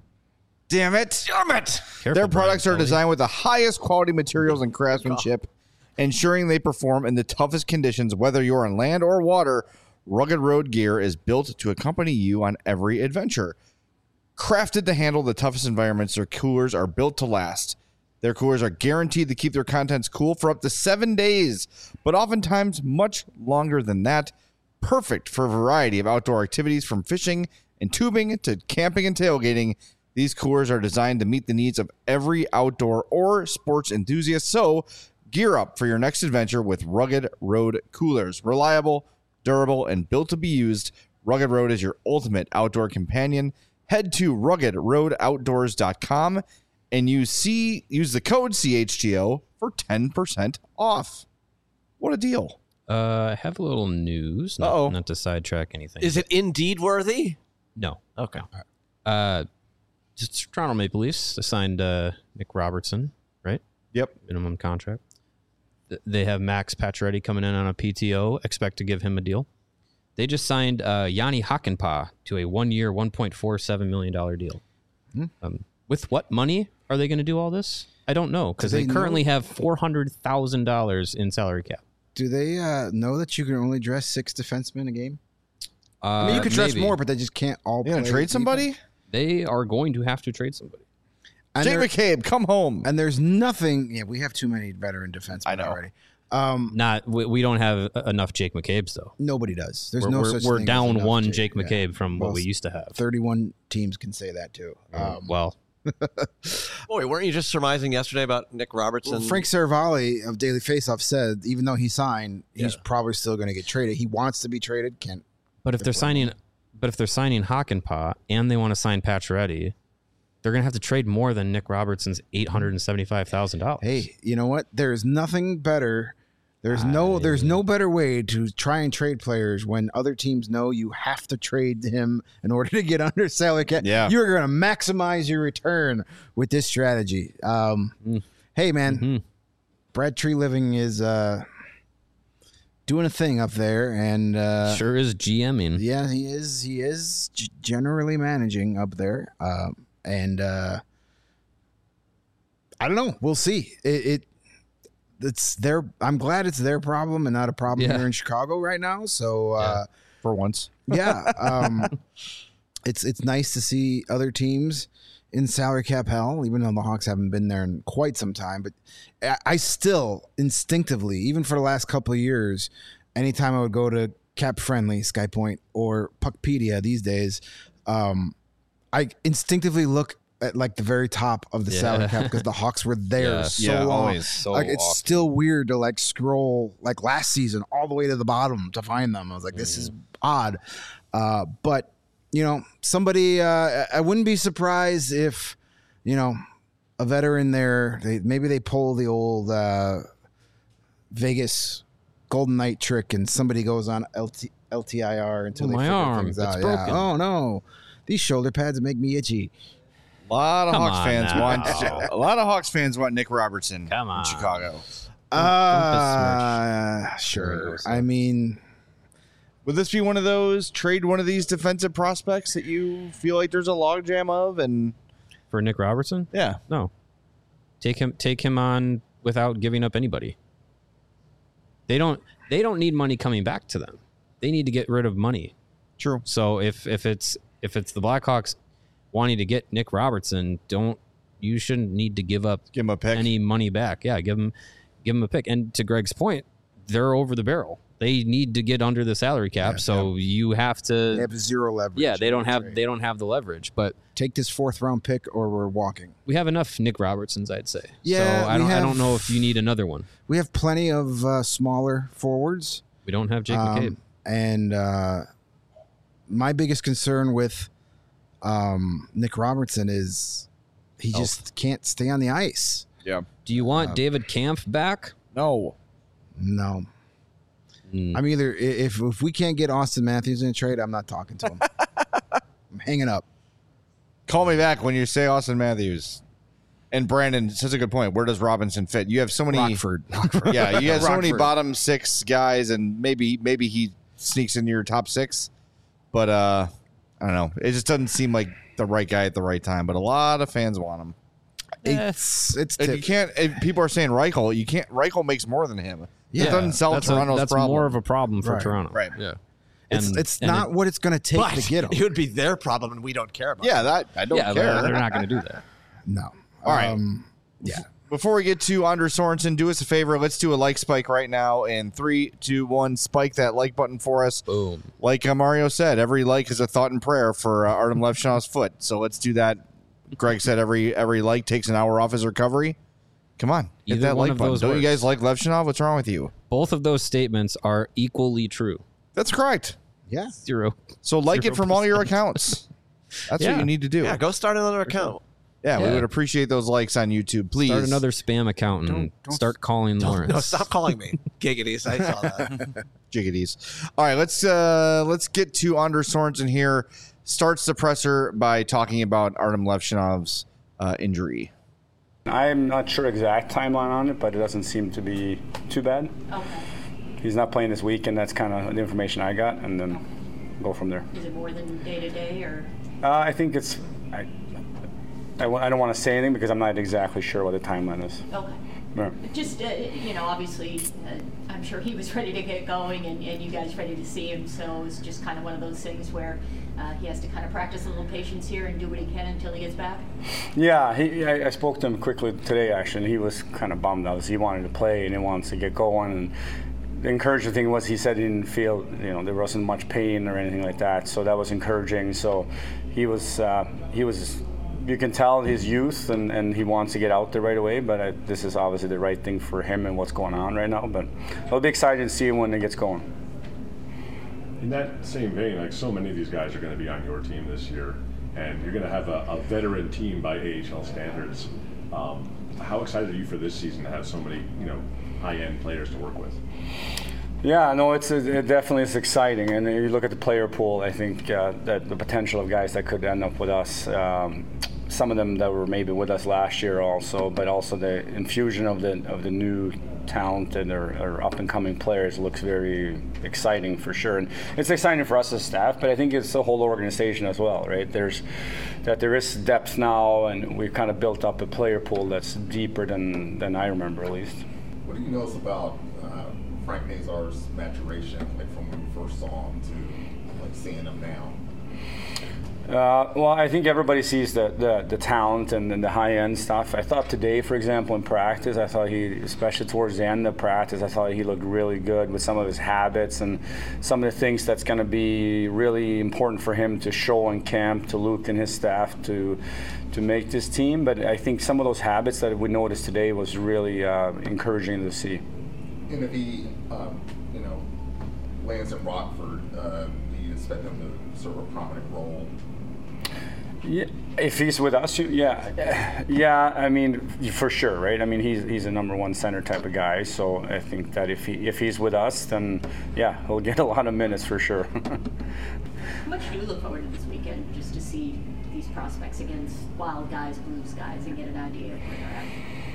Damn it. Damn it. Careful, Their products Brian are designed with the highest quality materials and craftsmanship, ensuring they perform in the toughest conditions, whether you're on land or water. Rugged Road gear is built to accompany you on every adventure. Crafted to handle the toughest environments, their coolers are built to last. Their coolers are guaranteed to keep their contents cool for up to seven days, but oftentimes much longer than that. Perfect for a variety of outdoor activities, from fishing and tubing to camping and tailgating. These coolers are designed to meet the needs of every outdoor or sports enthusiast. So gear up for your next adventure with Rugged Road coolers. Reliable, durable, and built to be used, Rugged Road is your ultimate outdoor companion. Head to rugged road outdoors dot com and use, C, use the code C H G O for ten percent off. What a deal. Uh, I have a little news. Not, Uh-oh. not to sidetrack anything. Is it indeed worthy? No. Okay. Uh, just Toronto Maple Leafs assigned uh, Nick Robertson, right? Yep. Minimum contract. Th- They have Max Pacioretty coming in on a P T O. Expect to give him a deal. They just signed uh, Yanni Hakanpää to a one-year, one point four seven million dollars deal. Hmm. Um, with what money are they going to do all this? I don't know, because Do they, they currently know? have four hundred thousand dollars in salary cap. Do they uh, know that you can only dress six defensemen a game? Uh, I mean, you could dress maybe. more, but they just can't all You gonna play trade with somebody? people. They are going to have to trade somebody. And Jake there- McCabe, come home. And there's nothing. Yeah, we have too many veteran defensemen I know. already. Um, Not we, we don't have enough Jake McCabe's though. nobody does. There's We're, no we're, such we're thing as down enough one Jake, yeah. McCabe from Well, what we used to have. thirty-one teams can say that too. Um, well, Boy, weren't you just surmising yesterday about Nick Robertson? well, Frank Cervalli of Daily Faceoff said even though he signed, he's Yeah. probably still going to get traded. He wants to be traded. Can't. but if they're signing, but if they're signing Hakanpää and they want to sign Pacioretty, they're going to have to trade more than Nick Robertson's eight hundred and seventy-five thousand dollars. Hey, you know what? There's nothing better. There's no I- there's no better way to try and trade players when other teams know you have to trade him in order to get under salary cap. Yeah. You're going to maximize your return with this strategy. Um, Mm. Hey, man, Mhm. Brad Tree Living is uh, doing a thing up there, and uh, sure is GMing. yeah, he is. He is g- generally managing up there, um, and uh, I don't know. We'll see. It, it it's their. I'm glad it's their problem and not a problem Yeah. here in Chicago right now. So uh, For once. yeah, um, it's it's nice to see other teams in salary cap hell, even though the Hawks haven't been there in quite some time. But I, I still instinctively, even for the last couple of years, anytime I would go to Cap Friendly, SkyPoint, or Puckpedia these days, um, I instinctively look at like the very top of the Yeah. salary cap because the Hawks were there Yeah. so Yeah, long. always. So Like it's often. still weird to like scroll like last season all the way to the bottom to find them. I was like, this is odd. Uh, but you know, somebody, uh, I wouldn't be surprised if, you know, a veteran there. They, maybe they pull the old uh, Vegas Golden Knight trick, and somebody goes on L T, L T I R until Oh, they my figure arm, things it's out. broken. Yeah. Oh no, these shoulder pads make me itchy. A lot of Come Hawks on fans now. want a lot of Hawks fans want Nick Robertson Come on. in Chicago. Uh, sure. I mean, Would this be one of those trade one of these defensive prospects that you feel like there's a logjam of? And For Nick Robertson? yeah, No. Take him take him on without giving up anybody. They don't they don't need money coming back to them. They need to get rid of money. true. So if if it's if it's the Blackhawks wanting to get Nick Robertson, don't you shouldn't need to give up Give him a pick. any money back. Yeah, give him give him a pick. And to Greg's point, they're over the barrel. They need to get under the salary cap, Yeah, so you have to. they have zero leverage. yeah, they don't have Trade. they don't have the leverage, but Take this fourth round pick, or we're walking. we have enough Nick Robertsons, I'd say. Yeah, so I we don't I have- don't know if you need another one. We have plenty of uh, smaller forwards. We don't have Jake Um, McCabe. And uh, my biggest concern with um, Nick Robertson is he just can't stay on the ice. Yeah. Do you want uh, David Kampf back? No. No. Mm. I'm either if if we can't get Austin Matthews in a trade, I'm not talking to him. I'm hanging up. Call me back when you say Austin Matthews. And Brandon says a good point. Where does Robinson fit? You have so many. Rockford. Rockford. Yeah, you have so many Rockford. bottom six guys, and maybe maybe he sneaks into your top six. But uh, I don't know. It just doesn't seem like the right guy at the right time. But a lot of fans want him. It's it's If tip- you can't. If people are saying Reichel, you can't. Reichel makes more than him. Yeah, it doesn't solve that's a, Toronto's that's problem. more of a problem for Right, Toronto. right. Yeah. it's And- it's and not it- what it's going to take But to get him. it would be their problem, and we don't care about. Yeah, it. that I don't yeah, care. they're, they're not going to do that. No. All right. Um, yeah. Before we get to Anders Sorensen, do us a favor. Let's do a like spike right now. In three, two, one, spike that like button for us. Boom. Like uh, Mario said, every like is a thought and prayer for uh, Artem Levshinov's foot. So let's do that. Greg said every every like takes an hour off his recovery. Come on, hit Either that one like of button. those Don't you works. guys like Levshinov? What's wrong with you? Both of those statements are equally true. That's correct. Yeah. Zero. So like it from all your accounts. That's Yeah. what you need to do. Yeah, go start another account. Yeah, we Yeah. would appreciate those likes on YouTube. Please. Start another spam account and Don't- don't- start calling Lawrence. No, stop calling me giggities. I saw that. Jiggities. All right, let's uh let's get to Anders Sorensen here. Starts the presser by talking about Artem Levshinov's uh, injury. I'm not sure exact timeline on it, but it doesn't seem to be too bad. Okay. He's not playing this weekend. That's kind of the information I got, and then go from there. Is it more than day to day or? Uh, I think it's. I, I, wa- I don't want to say anything because I'm not exactly sure what the timeline is. Okay. Right. Just, uh, you know, obviously, uh, I'm sure he was ready to get going and, and you guys ready to see him. So it's just kind of one of those things where uh, he has to kind of practice a little patience here and do what he can until he gets back. Yeah, he, I, I spoke to him quickly today, actually, and he was kind of bummed out. He wanted to play and he wants to get going. And the encouraging thing was he said he didn't feel, you know, there wasn't much pain or anything like that. So that was encouraging. So he was, uh, he was. You can tell his youth and, and he wants to get out there right away, but I, this is obviously the right thing for him and what's going on right now. But it'll be exciting to see him when it gets going. In that same vein, like so many of these guys are going to be on your team this year, and you're going to have a, a veteran team by A H L standards. Um, how excited are you for this season to have so many, you know, high-end players to work with? Yeah, no, it's it definitely is exciting, and you look at the player pool. I think uh, that the potential of guys that could end up with us. Um, some of them that were maybe with us last year also, but also the infusion of the of the new talent and our, our up and coming players looks very exciting for sure. And it's exciting for us as staff, but I think it's the whole organization as well, right? There's that there is depth now, and we've kind of built up a player pool that's deeper than than I remember at least. What do you notice about uh, Frank Nazar's maturation, like from when you first saw him to like seeing him now? Uh, well, I think everybody sees the, the, the talent and, and the high-end stuff. I thought today, for example, in practice, I thought he, especially towards the end of practice, I thought he looked really good with some of his habits and some of the things that's going to be really important for him to show in camp, to Luke and his staff to to make this team. But I think some of those habits that we noticed today was really uh, encouraging to see. And if he, um, you know, lands in Rockford, uh, do you expect him to serve a prominent role? Yeah, If he's with us, yeah, yeah. I mean, for sure, right? I mean, he's he's a number one center type of guy. So I think that if he if he's with us, then yeah, he'll get a lot of minutes for sure. How much do you look forward to this weekend, just to see these prospects against Wild guys, Blues guys, and get an idea of where they're at?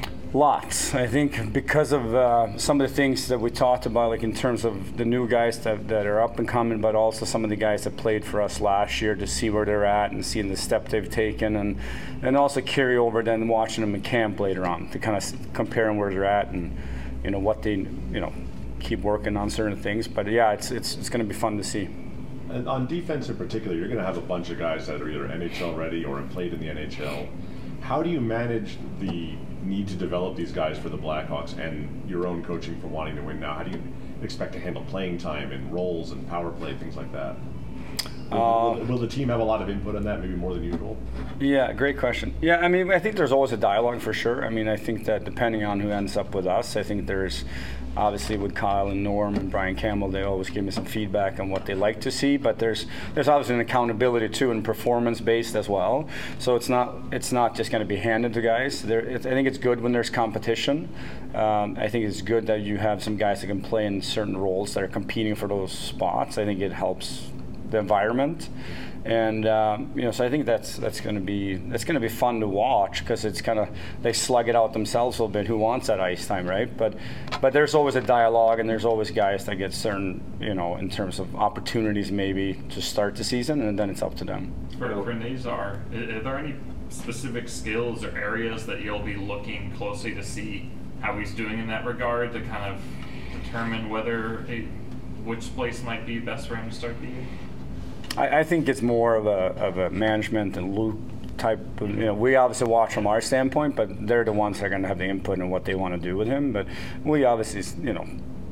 Lots. I think because of uh, some of the things that we talked about, like in terms of the new guys that, that are up and coming, but also some of the guys that played for us last year, to see where they're at and seeing the step they've taken, and and also carry over then watching them in camp later on to kind of compare where they're at and you know what they you know keep working on certain things. But yeah, it's it's it's going to be fun to see. And on defense in particular, you're going to have a bunch of guys that are either N H L ready or have played in the N H L. How do you manage the need to develop these guys for the Blackhawks and your own coaching for wanting to win now? How do you expect to handle playing time and roles and power play, things like that? Will, Uh, will, will the team have a lot of input on that, maybe more than usual? Yeah, great question. Yeah, I mean, I think there's always a dialogue for sure. I mean, I think that depending on who ends up with us, I think there's obviously with Kyle and Norm and Brian Campbell, they always give me some feedback on what they like to see. But there's there's obviously an accountability too, and performance based as well. So it's not it's not just going to be handed to guys. There, it's, I think it's good when there's competition. Um, I think it's good that you have some guys that can play in certain roles that are competing for those spots. I think it helps the environment, and um, you know, so I think that's that's going to be that's going to be fun to watch, because it's kind of they slug it out themselves a little bit. Who wants that ice time, right? But but there's always a dialogue, and there's always guys that get certain, you know, in terms of opportunities maybe to start the season, and then it's up to them. For, for Nazar, are, are there any specific skills or areas that you'll be looking closely to see how he's doing in that regard to kind of determine whether a, which place might be best for him to start the year? I, I think it's more of a of a management and Luke type of, you know, we obviously watch from our standpoint, but they're the ones that are going to have the input in what they want to do with him. But we obviously, you know,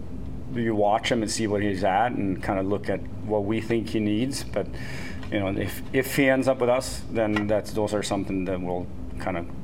you watch him and see what he's at and kind of look at what we think he needs. But, you know, if if he ends up with us, then that's those are something that we'll kind of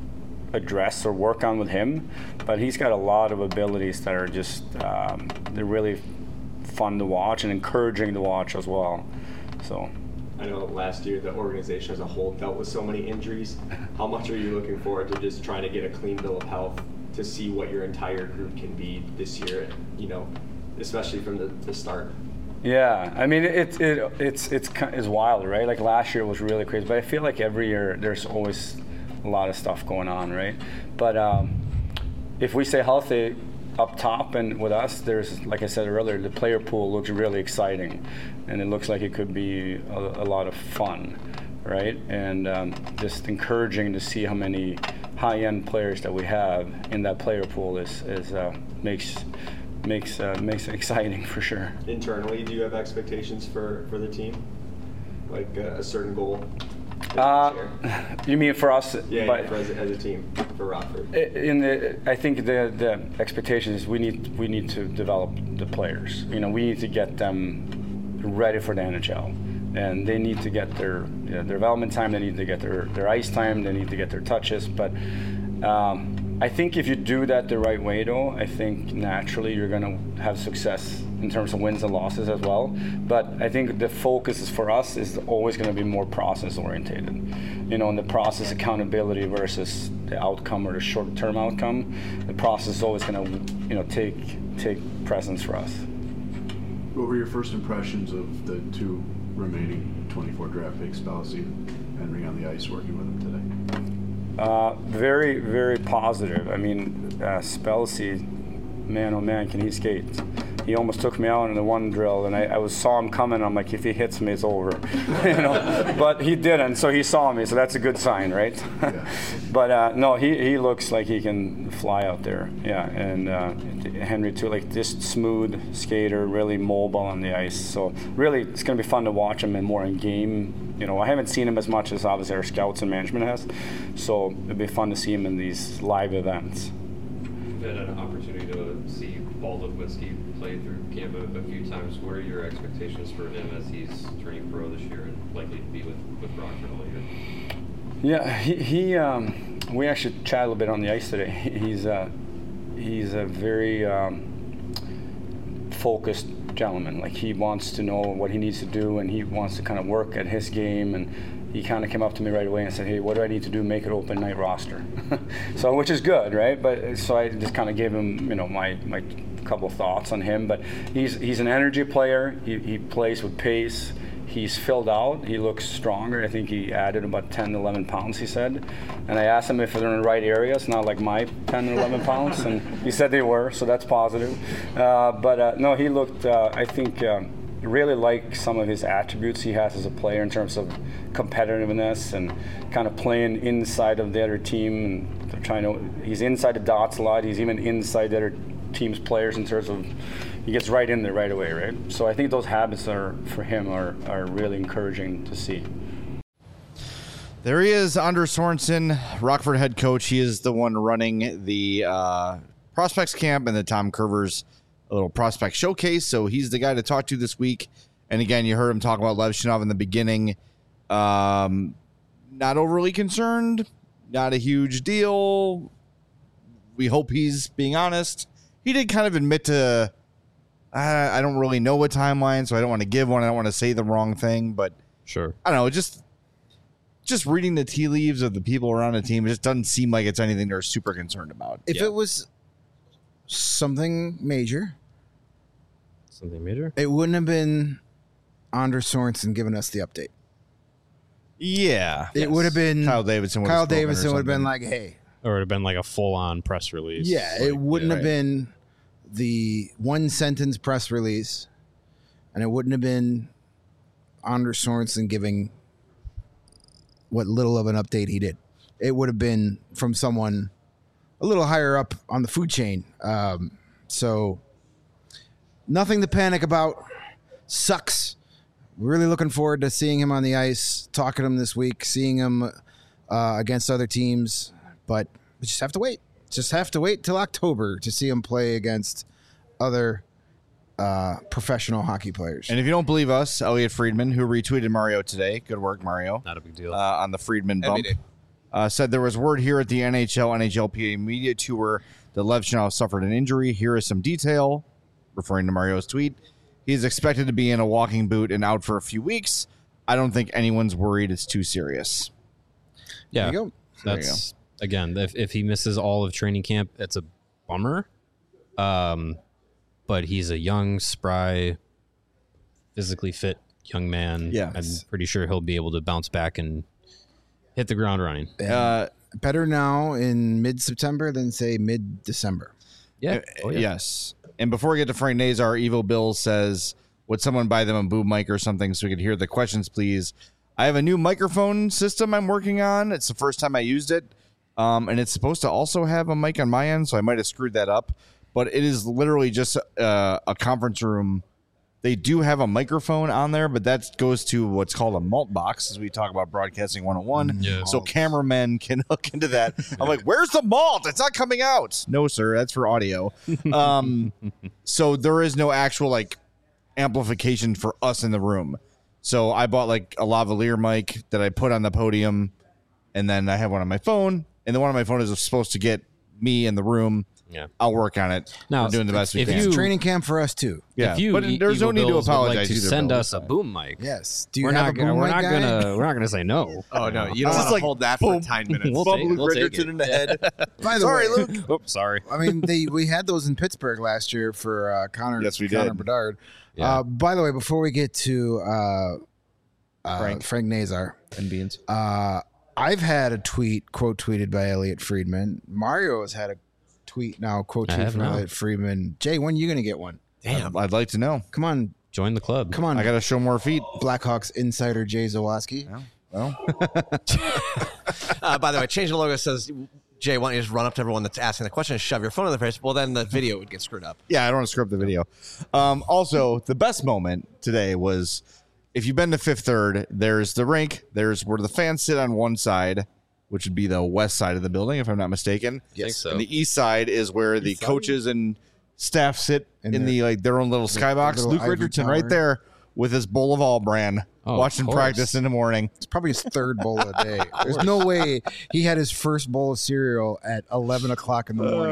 address or work on with him. But he's got a lot of abilities that are just um, they're really fun to watch and encouraging to watch as well. So I know last year the organization as a whole dealt with so many injuries. How much are you looking forward to just trying to get a clean bill of health to see what your entire group can be this year, you know, especially from the, the start? Yeah, I mean, it, it, it's, it's, it's wild, right? Like last year was really crazy, but I feel like every year there's always a lot of stuff going on, right? But um, if we stay healthy up top and with us, there's, like I said earlier, the player pool looks really exciting, and it looks like it could be a, a lot of fun, right? And um, just encouraging to see how many high-end players that we have in that player pool is, is uh, makes makes uh, makes it exciting for sure. Internally, do you have expectations for, for the team, like uh, a certain goal? Uh, you mean for us? Yeah, but yeah for as, a, as a team for Rockford. In the, I think the the expectation is we need we need to develop the players. You know, we need to get them ready for the N H L, and they need to get their you know, their development time. They need to get their, their ice time. They need to get their touches. But um, I think if you do that the right way, though, I think naturally you're going to have success in terms of wins and losses as well. But I think the focus is for us is always going to be more process orientated. You know, and the process accountability versus the outcome or the short-term outcome. The process is always going to, you know, take take precedence for us. What were your first impressions of the two remaining twenty-four draft picks, Spalsy and Henry, on the ice working with them today? Uh, very, very positive. I mean, uh, Spalsy, man, oh man, can he skate? He almost took me out in the one drill, and I, I was saw him coming. I'm like, if he hits me, it's over, you know. But he didn't, so he saw me, so that's a good sign, right? Yeah. But uh, no, he, he looks like he can fly out there. Yeah, and uh, Henry too, like just smooth skater, really mobile on the ice. So really, it's going to be fun to watch him and more in game. You know, I haven't seen him as much as obviously our scouts and management has. So it'd be fun to see him in these live events. You've had an opportunity to see Paul Ludwitsky play through camp a, a few times. What are your expectations for him as he's turning pro this year and likely to be with, with Rockford all year? Yeah, he, he um, we actually chatted a little bit on the ice today. He's uh, he's a very um, focused gentleman. Like, he wants to know what he needs to do, and he wants to kind of work at his game, and he kind of came up to me right away and said, hey, what do I need to do to make it open night roster? So, which is good, right? But so I just kind of gave him, you know, my, my couple thoughts on him. But he's he's an energy player. He, he plays with pace. He's filled out. He looks stronger. I think he added about ten, eleven pounds, he said. And I asked him if they're in the right areas, not like my ten or eleven pounds. And he said they were, so that's positive. Uh, but uh, no, he looked, uh, I think, um, really like some of his attributes he has as a player in terms of competitiveness and kind of playing inside of the other team. And they're trying to, he's inside the dots a lot. He's even inside the other team's players in terms of, he gets right in there right away, right? So I think those habits are for him are, are really encouraging to see. There he is, Anders Sorensen, Rockford head coach. He is the one running the uh, prospects camp and the Tom Curvers a little prospect showcase. So he's the guy to talk to this week. And again, you heard him talk about Levshunov in the beginning. Um, not overly concerned, not a huge deal. We hope he's being honest. He did kind of admit to, I, I don't really know what timeline, so I don't want to give one. I don't want to say the wrong thing, but sure. I don't know. Just, just reading the tea leaves of the people around the team, it just doesn't seem like it's anything they're super concerned about. If yeah. it was something major, something major, it wouldn't have been Anders Sorensen giving us the update. Yeah, it yes. would have been Kyle Davidson. Kyle Davidson would have been like, "Hey," or it would have been like a full-on press release. Yeah, like, it wouldn't yeah, have right. been the one sentence press release, and it wouldn't have been Anders Sorensen giving what little of an update he did. It would have been from someone a little higher up on the food chain. Um, so nothing to panic about. Sucks. Really looking forward to seeing him on the ice, talking to him this week, seeing him uh, against other teams, but we just have to wait. Just have to wait till October to see him play against other uh, professional hockey players. And if you don't believe us, Elliot Friedman, who retweeted Mario today, good work, Mario. Not a big deal. Uh, on the Friedman bump, Every day. uh, said there was word here at the N H L, N H L P A media tour that Levshunov suffered an injury. Here is some detail, referring to Mario's tweet. He's expected to be in a walking boot and out for a few weeks. I don't think anyone's worried it's too serious. Yeah, There you go. There you that's again. If if he misses all of training camp, it's a bummer. Um, but he's a young, spry, physically fit young man. Yeah. I'm pretty sure he'll be able to bounce back and hit the ground running. Uh, Better now in mid-September than, say, mid-December. Yeah. Uh, Oh, yeah. Yes. And before we get to Frank Nazar, Evo Bill says, would someone buy them a boom mic or something so we could hear the questions, please? I have a new microphone system I'm working on. It's the first time I used it. Um, and it's supposed to also have a mic on my end, so I might have screwed that up. But it is literally just uh, a conference room. They do have a microphone on there, but that goes to what's called a malt box, as we talk about Broadcasting one oh one. Yeah. So cameramen can hook into that. I'm like, where's the malt? It's not coming out. No, sir. That's for audio. Um, so there is no actual like amplification for us in the room. So I bought like a lavalier mic that I put on the podium, and then I have one on my phone, and the one on my phone is supposed to get me in the room. Yeah. I'll work on it. Now, We're doing the best we if can. you- It's training camp for us, too. Yeah, If you, but E- there's no Eagle need to Bills would apologize like to either, send Bill. us a boom mic. Yes. Do you We're have not. a boom Gonna, we're mic not guy? gonna. We're not gonna say no. Oh no, you don't It's want to like, hold that boom. for ten minutes. We'll Bump take, Luke we'll take Richardson it. in the head. By the Sorry, way, Luke. Oops, sorry. I mean, they we had those in Pittsburgh last year for uh, Connor. Yes, we Connor did. Bedard. Yeah. Uh, by the way, before we get to uh, uh, Frank. Frank Nazar, And beans. uh, I've had a tweet quote tweeted by Elliot Friedman. Mario has had a tweet now quote I tweet have from now. Elliot Friedman. Jay, when are you gonna get one? Damn. I'd, I'd like to know. Come on, Join the club. come on. I got to show more feet. Blackhawks insider Jay Zawaski. Well, Uh, by the way, change the logo says, Jay, why don't you just run up to everyone that's asking the question and shove your phone in their face? Well, then the video would get screwed up. yeah, I don't want to screw up the video. Um, also, the best moment today was if you've been to Fifth Third, there's the rink. There's where the fans sit on one side, which would be the west side of the building, if I'm not mistaken. I think so. And the east side is where the side? coaches and staff sit In in their- the like their own little skybox. little Luke ivory Richardson tower. right there with his bowl of all brand, Oh, of watching course. practice in the morning. It's probably his third bowl a day. There's no way he had his first bowl of cereal at eleven o'clock in the morning.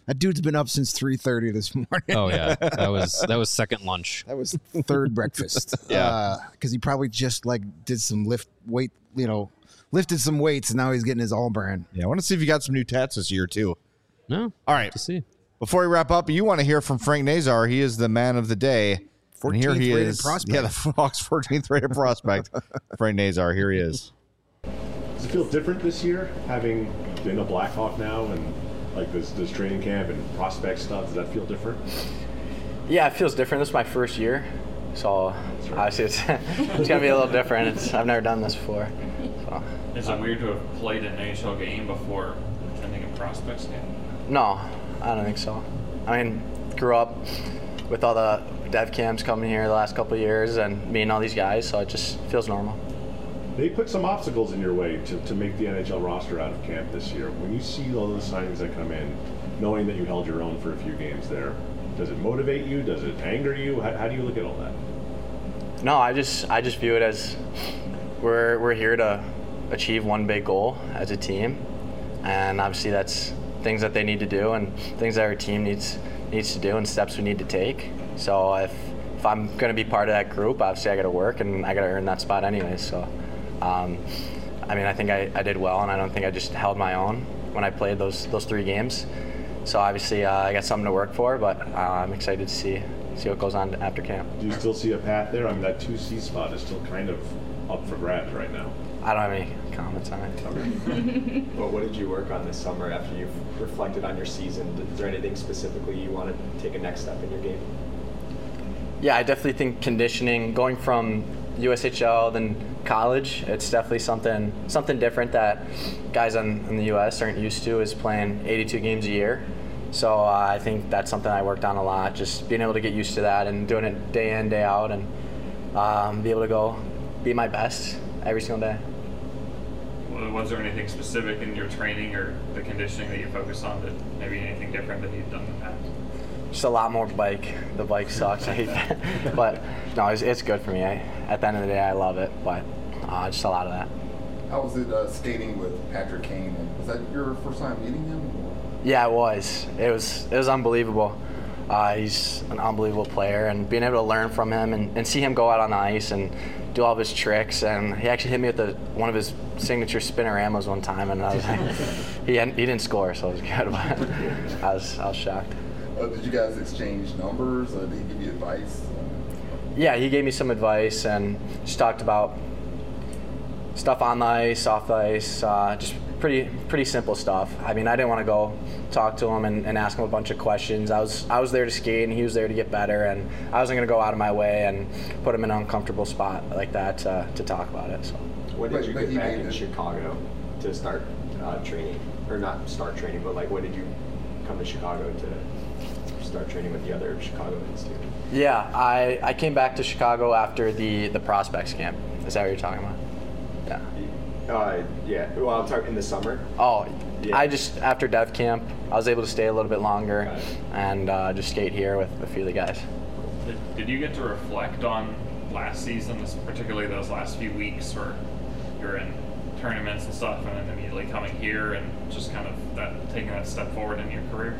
That dude's been up since three thirty this morning. Oh yeah, that was that was second lunch. That was third breakfast. Yeah, because uh, he probably just like did some lift weight, you know, lifted some weights, and now he's getting his all brand. Yeah, I want to see if you got some new tats this year too. No, all right. To see. Before we wrap up, you want to hear from Frank Nazar. He is the man of the day. And here he is. Prospect. Yeah, the Hawks fourteenth rated prospect. Frank Nazar. Here he is. Does it feel different this year, having been a Blackhawk now and like this this training camp and prospect stuff? Does that feel different? Yeah, it feels different. This is my first year, so right. obviously it's it's gonna be a little different. It's, I've never done this before. So. Is it weird to have played an N H L game before attending a prospects game? No, I don't think so. I mean, grew up with all the dev camps coming here the last couple of years and meeting all these guys, so it just feels normal. They put some obstacles in your way to, to make the N H L roster out of camp this year. When you see all those signings that come in, knowing that you held your own for a few games there, does it motivate you? Does it anger you? How, how do you look at all that? No, I just I just view it as we're we're here to achieve one big goal as a team, and obviously that's things that they need to do and things that our team needs needs to do and steps we need to take. So if if I'm going to be part of that group, obviously I got to work and I got to earn that spot anyway. So, um, I mean, I think I, I did well, and I don't think I just held my own when I played those those three games. So obviously uh, I got something to work for, but uh, I'm excited to see see what goes on after camp. Do you still see a path there? I mean, that two C spot is still kind of up for grabs right now. I don't have any comments on it. Okay. Well, what did you work on this summer after you've reflected on your season? Is there anything specifically you want to take a next step in your game? Yeah, I definitely think conditioning, going from U S H L then college, it's definitely something something different that guys in, in the U S aren't used to, is playing eighty-two games a year. So uh, I think that's something I worked on a lot, just being able to get used to that and doing it day in, day out, and um, be able to go be my best every single day. Was there anything specific in your training or the conditioning that you focused on, that maybe anything different than you've done in the past? Just a lot more bike. The bike sucks. I hate that. But no, it's, it's good for me. I, at the end of the day, I love it. But uh, just a lot of that. How was it uh, skating with Patrick Kane? Was that your first time meeting him? Yeah, it was. It was. It was unbelievable. Uh, he's an unbelievable player, and being able to learn from him and, and see him go out on the ice and do all of his tricks. And he actually hit me with the, one of his signature spinoramos one time, and I was like, he hadn't, he didn't score, so it was good. But I was I was shocked. Uh, did you guys exchange numbers? Uh, did he give you advice? Yeah, he gave me some advice and just talked about stuff on the ice, off the ice, uh, just pretty pretty simple stuff. I mean, I didn't want to go talk to him and, and ask him a bunch of questions. I was I was there to skate, and he was there to get better, and I wasn't going to go out of my way and put him in an uncomfortable spot like that uh, to talk about it. So. When did you get back in Chicago to start uh, training, or not start training, but like when did you come to Chicago to start training with the other Chicagoans too? Yeah, I, I came back to Chicago after the, the prospects camp. Is that what you're talking about? Yeah. Uh, yeah. Well, I'm talking in the summer. Oh, yeah. I just, after dev camp, I was able to stay a little bit longer and uh, just skate here with a few of the guys. Did, did you get to reflect on last season, particularly those last few weeks where you're in tournaments and stuff, and then immediately coming here and just kind of that taking that step forward in your career?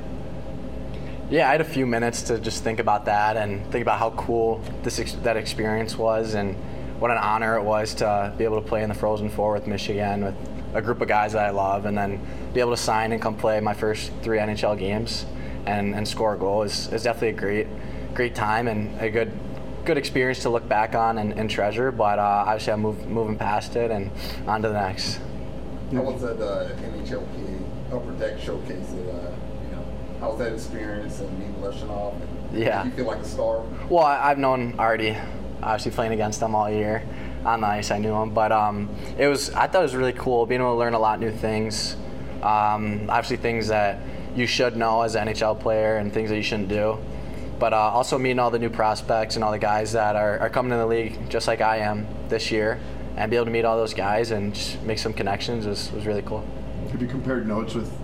Yeah, I had a few minutes to just think about that and think about how cool this ex- that experience was, and what an honor it was to be able to play in the Frozen Four with Michigan with a group of guys that I love, and then be able to sign and come play my first three N H L games and, and score a goal is, is definitely a great great time and a good good experience to look back on and, and treasure. But uh, obviously I'm move, moving past it and on to the next. How was that uh, N H L P A Upper Deck showcase? That, uh, you know, how was that experience and meeting Leshinov? Yeah. Did you feel like a star? Well, I, I've known Artie, obviously playing against them all year on the ice. I knew him, but um, it was I thought it was really cool being able to learn a lot of new things. Um, obviously things that you should know as an N H L player and things that you shouldn't do. But uh, also meeting all the new prospects and all the guys that are, are coming in the league just like I am this year, and be able to meet all those guys and just make some connections was, was really cool. Have you compared notes with,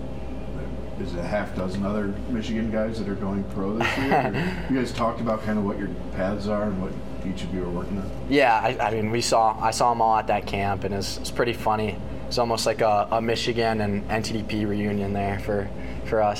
is it a half dozen other Michigan guys that are going pro this year? You guys talked about kind of what your paths are and what each of you are working on? Yeah, I, I mean, we saw I saw them all at that camp, and it's it's pretty funny. It's almost like a, a Michigan and N T D P reunion there for, for us.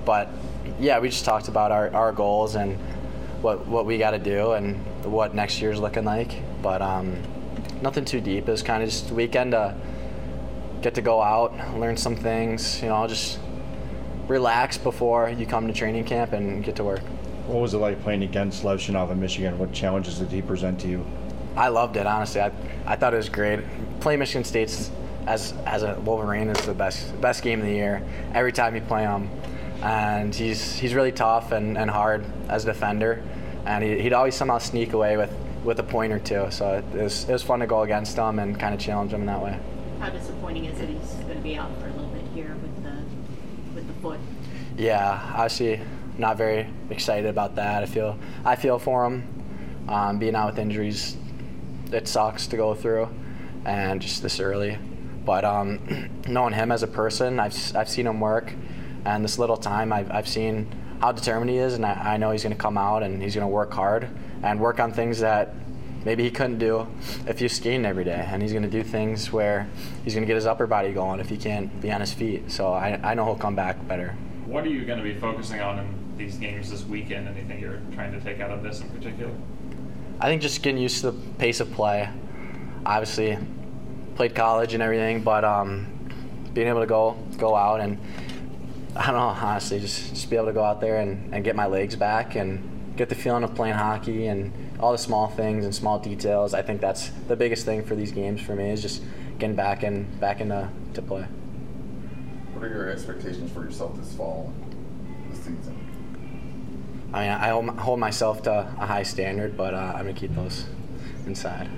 but yeah, we just talked about our, our goals and what what we got to do and what next year's looking like. But um, nothing too deep. It was kind of just a weekend to get to go out, learn some things, you know, just relax before you come to training camp and get to work. What was it like playing against Levshunov in Michigan? What challenges did he present to you? I loved it, honestly. I, I thought it was great. Playing Michigan State's as as a Wolverine is the best best game of the year. Every time you play him, and he's he's really tough and, and hard as a defender, and he, he'd always somehow sneak away with, with a point or two. So it was it was fun to go against him and kind of challenge him in that way. How disappointing is it he's going to be out for a little bit here with the with the foot? Yeah, obviously not very excited about that. I feel I feel for him. Um, being out with injuries, it sucks to go through, and just this early. But um, knowing him as a person, I've I've seen him work, and this little time I've I've seen how determined he is, and I, I know he's going to come out and he's going to work hard and work on things that maybe he couldn't do if he's skating every day, and he's going to do things where he's going to get his upper body going if he can't be on his feet. So I I know he'll come back better. What are you going to be focusing on in these games this weekend? Anything you're trying to take out of this in particular? I think just getting used to the pace of play. Obviously, played college and everything, but um, being able to go go out and, I don't know, honestly, just, just be able to go out there and, and get my legs back and get the feeling of playing hockey and all the small things and small details. I think that's the biggest thing for these games for me is just getting back and back into to play. What are your expectations for yourself this fall, this season? I mean, I hold, hold myself to a high standard, but uh, I'm going to keep those inside.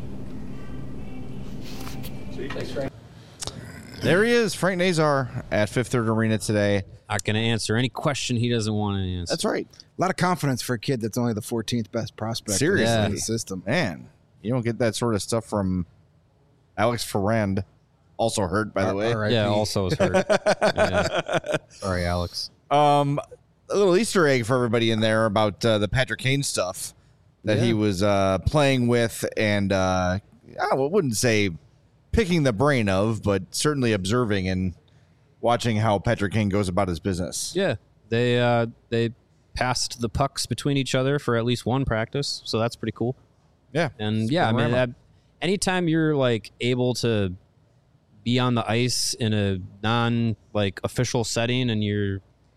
Thanks, Frank. There he is, Frank Nazar at Fifth Third Arena today. Not going to answer any question he doesn't want to answer. That's right. A lot of confidence for a kid that's only the fourteenth best prospect Seriously. in the system. Man, you don't get that sort of stuff from Alex Ferrand. Also hurt, by the way. R I P Yeah, also is hurt. Yeah. Sorry, Alex. Um, a little Easter egg for everybody in there about uh, the Patrick Kane stuff that Yeah. he was uh, playing with and uh, I wouldn't say picking the brain of, but certainly observing and watching how Patrick Kane goes about his business. Yeah, they uh, they passed the pucks between each other for at least one practice, so that's pretty cool. Yeah, and yeah, I mean, that, anytime you're like able to be on the ice in a non like official setting, and you're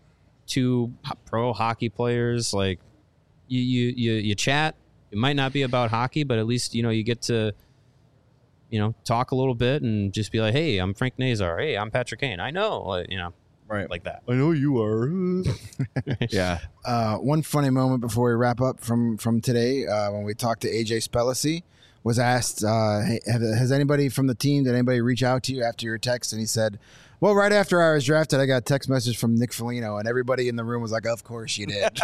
two pro hockey players, like you you you you chat. It might not be about hockey, but at least you know you get to. You know, talk a little bit and just be like, "Hey, I'm Frank Nazar. Hey, I'm Patrick Kane. I know, like, you know, right, like that. I know you are." Yeah. Uh, one funny moment before we wrap up from from today, uh, when we talked to A J Spellici, was asked, uh, hey, have, "Has anybody from the team, did anybody reach out to you after your text?" And he said, "Well, right after I was drafted, I got a text message from Nick Foligno, and everybody in the room was like, 'Of course you did.'"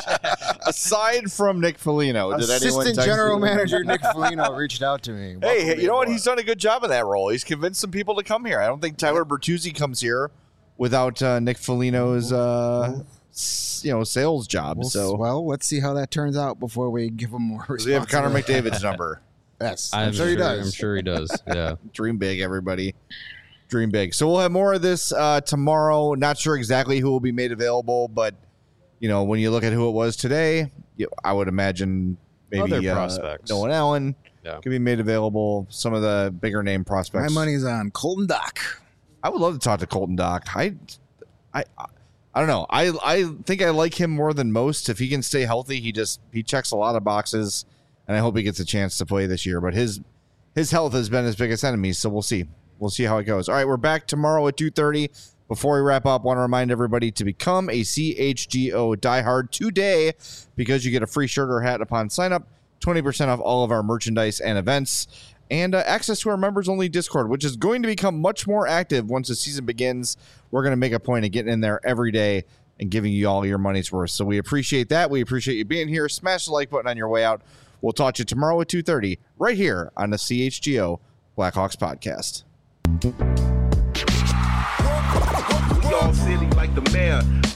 Aside from Nick Foligno, did anyone Assistant text General you? Manager Nick Foligno reached out to me. Hey, you know what? He's done a good job in that role. He's convinced some people to come here. I don't think Tyler Bertuzzi comes here without uh, Nick Foligno's, uh, s- you know, sales job. Well, so, well, let's see how that turns out before we give him more does he have Connor responsibility. McDavid's number? Yes, I'm, I'm, sure he does. I'm sure he does. Yeah. Dream big, everybody. Dream big. So we'll have more of this uh, tomorrow. Not sure exactly who will be made available, but you know, when you look at who it was today, you, I would imagine maybe Other uh, prospects. Nolan Allen Yeah. could be made available. Some of the bigger name My prospects. money's on Colton Dock. I would love to talk to Colton Dock. I, I, I don't know. I, I think I like him more than most. If he can stay healthy, he just he checks a lot of boxes, and I hope he gets a chance to play this year. But his his health has been his biggest enemy, so we'll see. We'll see how it goes. All right, we're back tomorrow at two thirty. Before we wrap up, I want to remind everybody to become a C H G O diehard today because you get a free shirt or hat upon sign up, twenty percent off all of our merchandise and events, and uh, access to our members-only Discord, which is going to become much more active once the season begins. We're going to make a point of getting in there every day and giving you all your money's worth. So we appreciate that. We appreciate you being here. Smash the like button on your way out. We'll talk to you tomorrow at two thirty right here on the C H G O Blackhawks podcast. We all silly like the mayor.